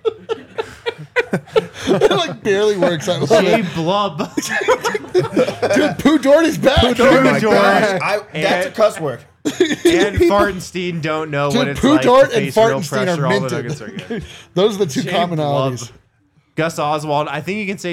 It like barely works. I love Shea it. Blub, Dude, Pooh Doherty's back. Oh my Jordan. gosh, that's a cuss word. and Fartenstein don't know what Dude, it's Pooh like Dort to and face real Fartenstein pressure. are All the minted. Nuggets are good. Those are the two Shea commonalities. Blub. Gus Oswald, I think you can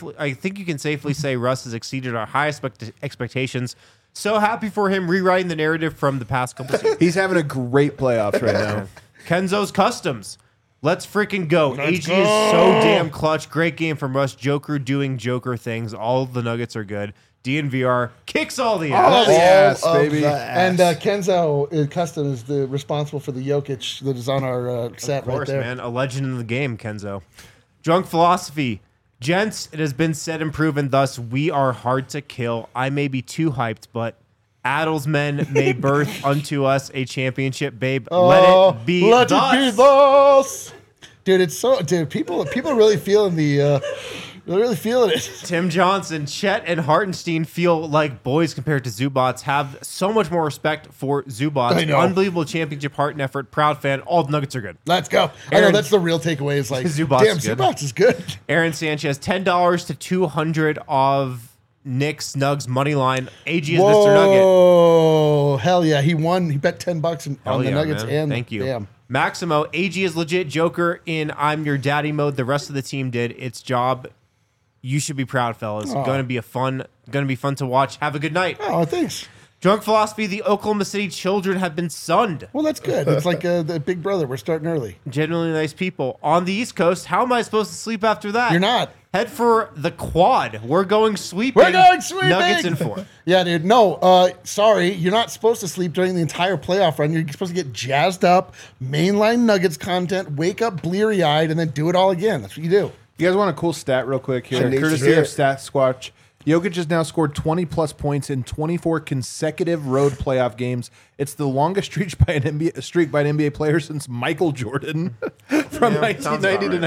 safely say Russ has exceeded our highest expectations. So happy for him rewriting the narrative from the past couple seasons. He's having a great playoffs right now. Kenzo's Customs. Let's freaking go. AG is so damn clutch. Great game from Russ. Joker doing Joker things. All the Nuggets are good. DNVR kicks all the ass. Oh, yes, All of baby. the And ass. Kenzo Custom is the responsible for the Jokic that is on our set Of course, right there. man. A legend in the game, Kenzo. Drunk Philosophy. Gents, it has been said and proven thus, we are hard to kill. I may be too hyped, but Addles men may birth unto us a championship, babe. Let it be Let thus. it be thus. Dude, it's so people are really feeling they're really feeling it. Tim Johnson, Chet, and Hartenstein feel like boys compared to Zubats. Have so much more respect for Zubats. I know. Unbelievable championship heart and effort. Proud fan. All the Nuggets are good. Let's go. I know Aaron- that's the real takeaway. Is like, Zubats damn, is good. Zubats is good. Aaron Sanchez, $10 to 200 of Knicks Nugs money line. AG is Mr. Nugget. Whoa, hell yeah! He won. He bet $10 Hell on the yeah, Nuggets man. and Thank you. Damn. Maximo, AG is legit Joker in I'm your daddy mode. The rest of the team did its job. You should be proud, fellas. Going to be fun to watch. Have a good night. Oh, thanks. Drunk Philosophy, the Oklahoma City children have been sunned. Well, that's good. It's like the Big Brother. We're starting early. Genuinely nice people. On the East Coast, how am I supposed to sleep after that? You're not. Head for the quad. We're going sweeping. We're going sweeping. Nuggets in 4. Yeah, dude. No, sorry. You're not supposed to sleep during the entire playoff run. You're supposed to get jazzed up, mainline Nuggets content, wake up bleary-eyed, and then do it all again. That's what you do. You guys want a cool stat real quick here? I need to Courtesy hear of it. Stat Squatch. Jokic has now scored 20-plus points in 24 consecutive road playoff games. It's the longest streak by an NBA player since Michael Jordan from 1990 to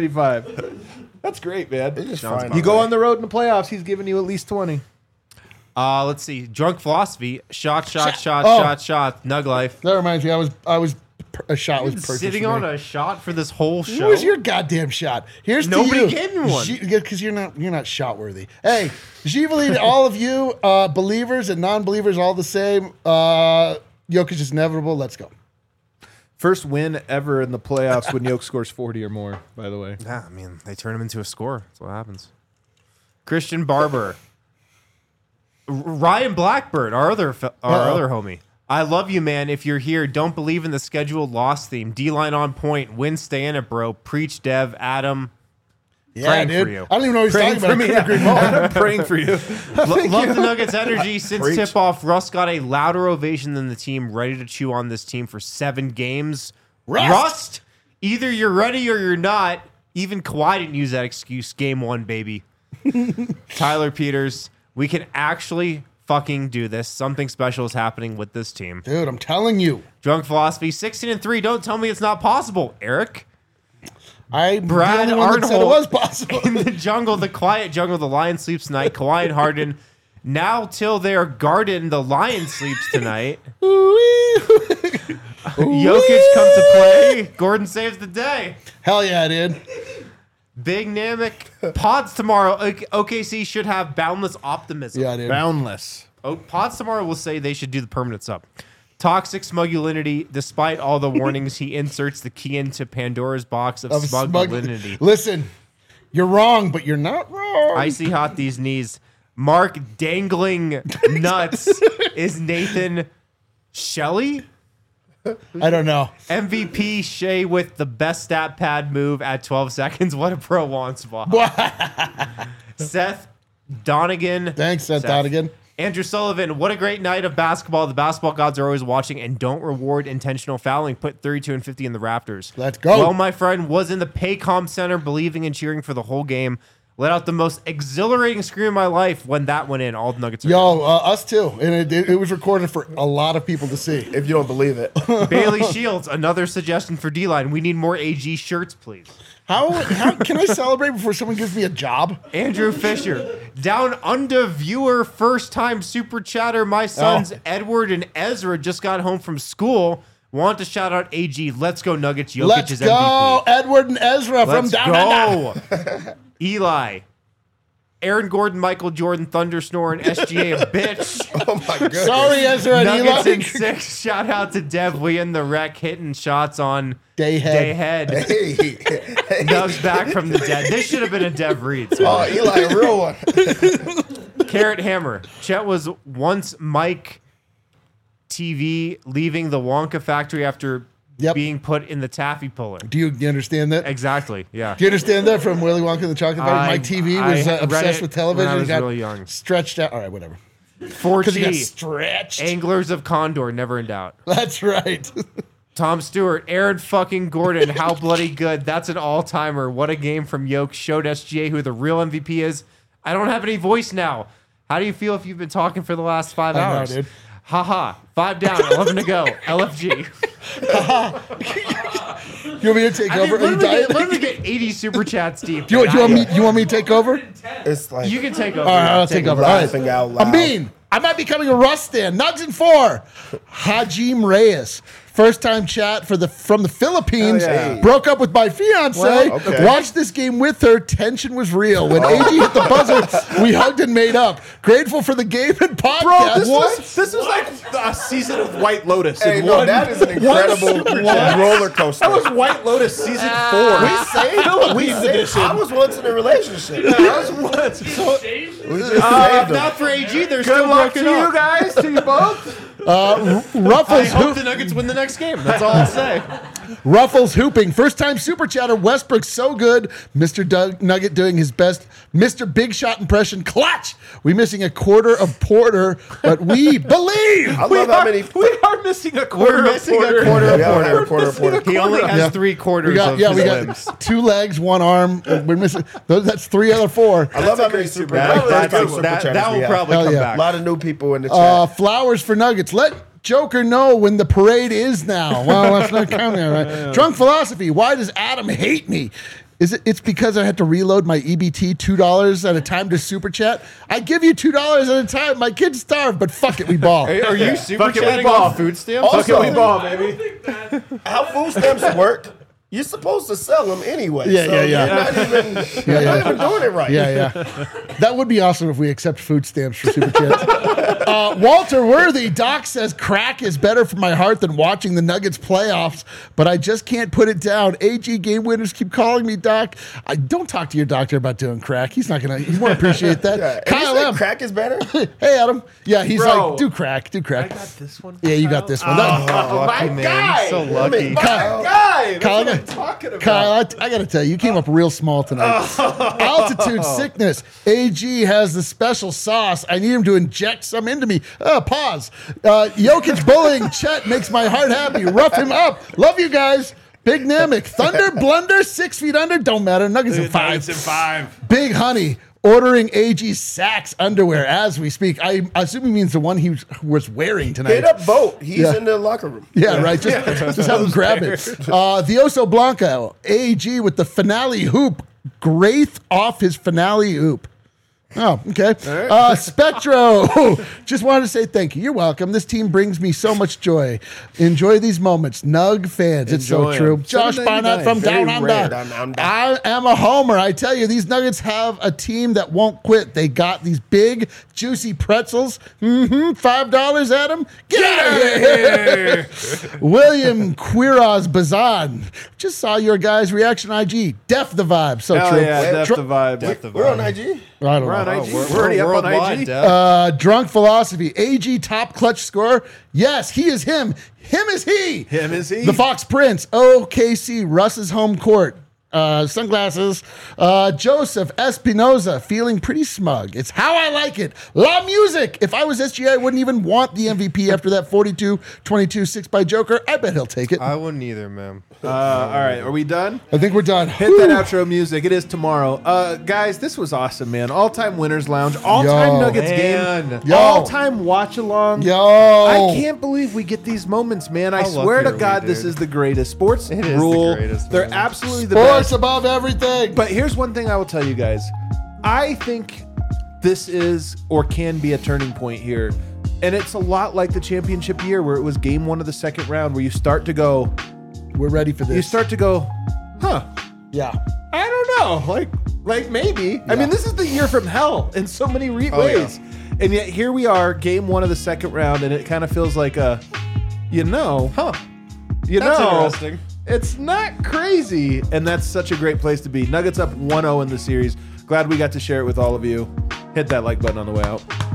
1995. That's great, man. just Sounds fine. about You go on the road in the playoffs, he's giving you at least 20. Let's see. Drunk Philosophy. Shot. Oh. Nug life. That reminds me. A shot was perfect. Sitting for on me. a shot for this whole show. What was your goddamn shot? Here's Nobody to you. gave me one. Because you're not shot worthy. Hey, Givali to all of you, believers and non-believers, all the same. Jokic is inevitable. Let's go. First win ever in the playoffs when Jokic scores 40 or more, by the way. Yeah, I mean, they turn him into a scorer. That's what happens. Christian Barber. Ryan Blackbird, our other homie. I love you, man. If you're here, don't believe in the scheduled loss theme. D-line on point. Win, stay in it, bro. Preach, Dev, Adam. Yeah, Praying dude. for you. I don't even know what he's Praying talking about. for I couldn't agree more. I'm praying for you. Love the Nuggets' energy. Since Preach. tip-off, Russ got a louder ovation than the team, ready to chew on this team for 7 games. Rust! Either you're ready or you're not. Even Kawhi didn't use that excuse. Game 1, baby. Tyler Peters, we can actually fucking do this. Something special is happening with this team. Dude, I'm telling you. Drunk Philosophy, 16-3. Don't tell me it's not possible, Eric. I'm Brad the only one that said it Arnold. was possible. In the jungle, the quiet jungle, the lion sleeps tonight. Kawhi and Harden. Now till their garden, the lion sleeps tonight. Jokic comes to play. Gordon saves the day. Hell yeah, dude. Big Namek. Pods tomorrow. OKC should have boundless optimism. Yeah, dude. Boundless. Pods tomorrow will say they should do the permanent sub. Toxic Smugulinity. Despite all the warnings, he inserts the key into Pandora's box of Smugulinity. Listen, you're wrong, but you're not wrong. Icy hot these knees. Mark dangling nuts is Nathan Shelley. I don't know. MVP Shea with the best stat pad move at 12 seconds. What a pro wants spot. Seth Donegan. Thanks, Seth Donegan. Andrew Sullivan, what a great night of basketball. The basketball gods are always watching and don't reward intentional fouling. Put 32 and 50 in the Rafters. Let's go. Well, my friend was in the Paycom Center believing and cheering for the whole game. Let out the most exhilarating scream of my life when that went in. All the Nuggets are Yo, us too. And it was recorded for a lot of people to see. If you don't believe it. Bailey Shields, another suggestion for D-Line. We need more AG shirts, please. How can I celebrate before someone gives me a job? Andrew Fisher, down under viewer, first time super chatter. My sons Edward and Ezra just got home from school. Want to shout out AG. Let's go Nuggets. Jokic Let's is go, MVP. Edward and Ezra from Let's down under. go. Eli, Aaron Gordon, Michael Jordan, Thunder Snore, and SGA a bitch. Oh my goodness. Sorry, Ezra and Nuggets in Eli. 6. Shout out to Dev. We in the wreck hitting shots on Dayhead. Dayhead. Hey. Doug's back from the dead. This should have been a Dev Reed. Oh, Eli, a real one. Carrot Hammer. Chet was once Mike TV leaving the Wonka factory after being put in the taffy puller. Do you understand that? Exactly. Yeah. Do you understand that from Willy Wonka and the Chocolate Factory? Mike TV was I read obsessed it with television. when I was He got really young. stretched out. All right, whatever. 4G. Because he got stretched. Anglers of Condor, never in doubt. That's right. Tom Stewart, Aaron fucking Gordon, how bloody good. That's an all-timer. What a game from Yoke. Showed SGA who the real MVP is. I don't have any voice now. How do you feel if you've been talking for the last 5 hours? I know, dude. Haha. 5 down, 11 to go. LFG. You want me to take over? Are you dying? Let me get 80 super chats deep. You want me to take over? It's like You can take over. All right, I'll take over. All right. laughing out loud. Amin, I might be becoming a Russ stand. Nugs in 4. Hajim Reyes. First time chat from the Philippines. yeah. Broke up with my fiance. Well, okay. Watched this game with her. Tension was real. When AG hit the buzzer, we hugged and made up. Grateful for the game and podcast. Bro, this was like a season of White Lotus. Hey, in no, one- that is an incredible roller coaster. That was White Lotus season 4. We saved. I was once in a relationship. I was once. So, We just saved them. Not for AG. They're good still luck to broken you up. guys, to you both. I Ruffles hope the Nuggets win the next game. That's all I'll say. Ruffles hooping. First time super chatter. Westbrook so good. Mr. Doug Nugget doing his best. Mr. Big Shot impression. Clutch. We missing a quarter of Porter, but we believe. I love how many. We are missing a quarter. We're missing of a quarter of We all have a Porter. quarter. He only has Yeah. 3 quarters We got, of yeah, his we limbs. got 2 legs, 1 arm. We're missing. That's 3 out of 4. I love how many super. That That will probably Hell come yeah. A back. lot of new people in the chat. Flowers for Nuggets. Let Joker know when the parade is now. Well, that's not counting, right? Drunk Philosophy. Why does Adam hate me? It's because I had to reload my EBT $2 at a time to super chat. I give you $2 at a time. My kids starve, but fuck it, we ball. Are you super Fuck it, we chatting ball. off food stamps? Also- Fuck it, we ball, baby. How food stamps work? You're supposed to sell them anyway. Yeah, so yeah, yeah. You're not even, you're not even doing it right. Yeah, yeah. That would be awesome if we accept food stamps for super chats. Walter Worthy, Doc says crack is better for my heart than watching the Nuggets playoffs, but I just can't put it down. AG game winners keep calling me Doc. I don't talk to your doctor about doing crack. He won't appreciate that. Yeah. Kyle You said M. Crack is better. Hey, Adam. Yeah, he's Bro. like, do crack. I got this one. Yeah, you got this one. That- Lucky my man. guy. So lucky. Kyle, Guy, that's Kyle, what I'm talking about. Kyle, I got to tell you, you came up real small tonight. Altitude sickness. AG has the special sauce. I need him to inject some into me. Pause. Jokic bullying Chet makes my heart happy. Rough him up. Love you guys. Big Namek. Thunder blunder. 6 feet under. Don't matter. Nuggets in 5. Nuggets in 5. Big Honey. ordering AG Saks underwear as we speak. I assume he means the one he was wearing tonight. Hit up Vote. He's Yeah. in the locker room. Yeah, right. Just have him grab it. The Oso Blanco, AG with the finale hoop. Graith off his finale hoop. Oh, okay. Spectro, just wanted to say thank you. You're welcome. This team brings me so much joy. Enjoy these moments. Nug fans. It's so Enjoy true. 'em. Josh 799, Barnett from very Down rare. Under. Down Under. I am a homer. I tell you, these Nuggets have a team that won't quit. They got these big, juicy pretzels. $5, Adam. Get out of here. William Quiroz Bazan. Just saw your guys' reaction on IG. Def the vibe. So Hell true. yeah, def the vibe. Def the We're on vibe. IG. I don't We're on know. IG. We're already up on worldwide, IG. Dev. Drunk Philosophy, AG top clutch scorer. Yes, he is him. Him is he. Him is he. The Fox Prince, OKC, Russ's home court. Sunglasses. Joseph Espinoza, feeling pretty smug. It's how I like it. La Music. If I was SGA, I wouldn't even want the MVP after that 42-22 6 by Joker. I bet he'll take it. I wouldn't either, man. All right, are we done? I think we're done. Hit that outro music. It is tomorrow. Guys, this was awesome, man. All-time Winners Lounge. All-time Yo. Nuggets Man. game. Yo. All-time watch-along. Yo. I can't believe we get these moments, man. I How swear to lucky are we, God, this dude? is the greatest. Sports It is the rule. greatest, They're man. absolutely the Sports best. above everything. But here's one thing I will tell you guys. I think this is or can be a turning point here. And it's a lot like the championship year where it was game 1 of the second round where you start to go, We're ready for this. you start to go, huh, Yeah. I don't know. Like maybe. I mean, this is the year from hell in so many ways. And yet here we are, game 1 of the second round, and it kind of feels like That's interesting. it's not crazy. And that's such a great place to be. Nuggets up 1-0 in the series. Glad we got to share it with all of you. Hit that like button on the way out.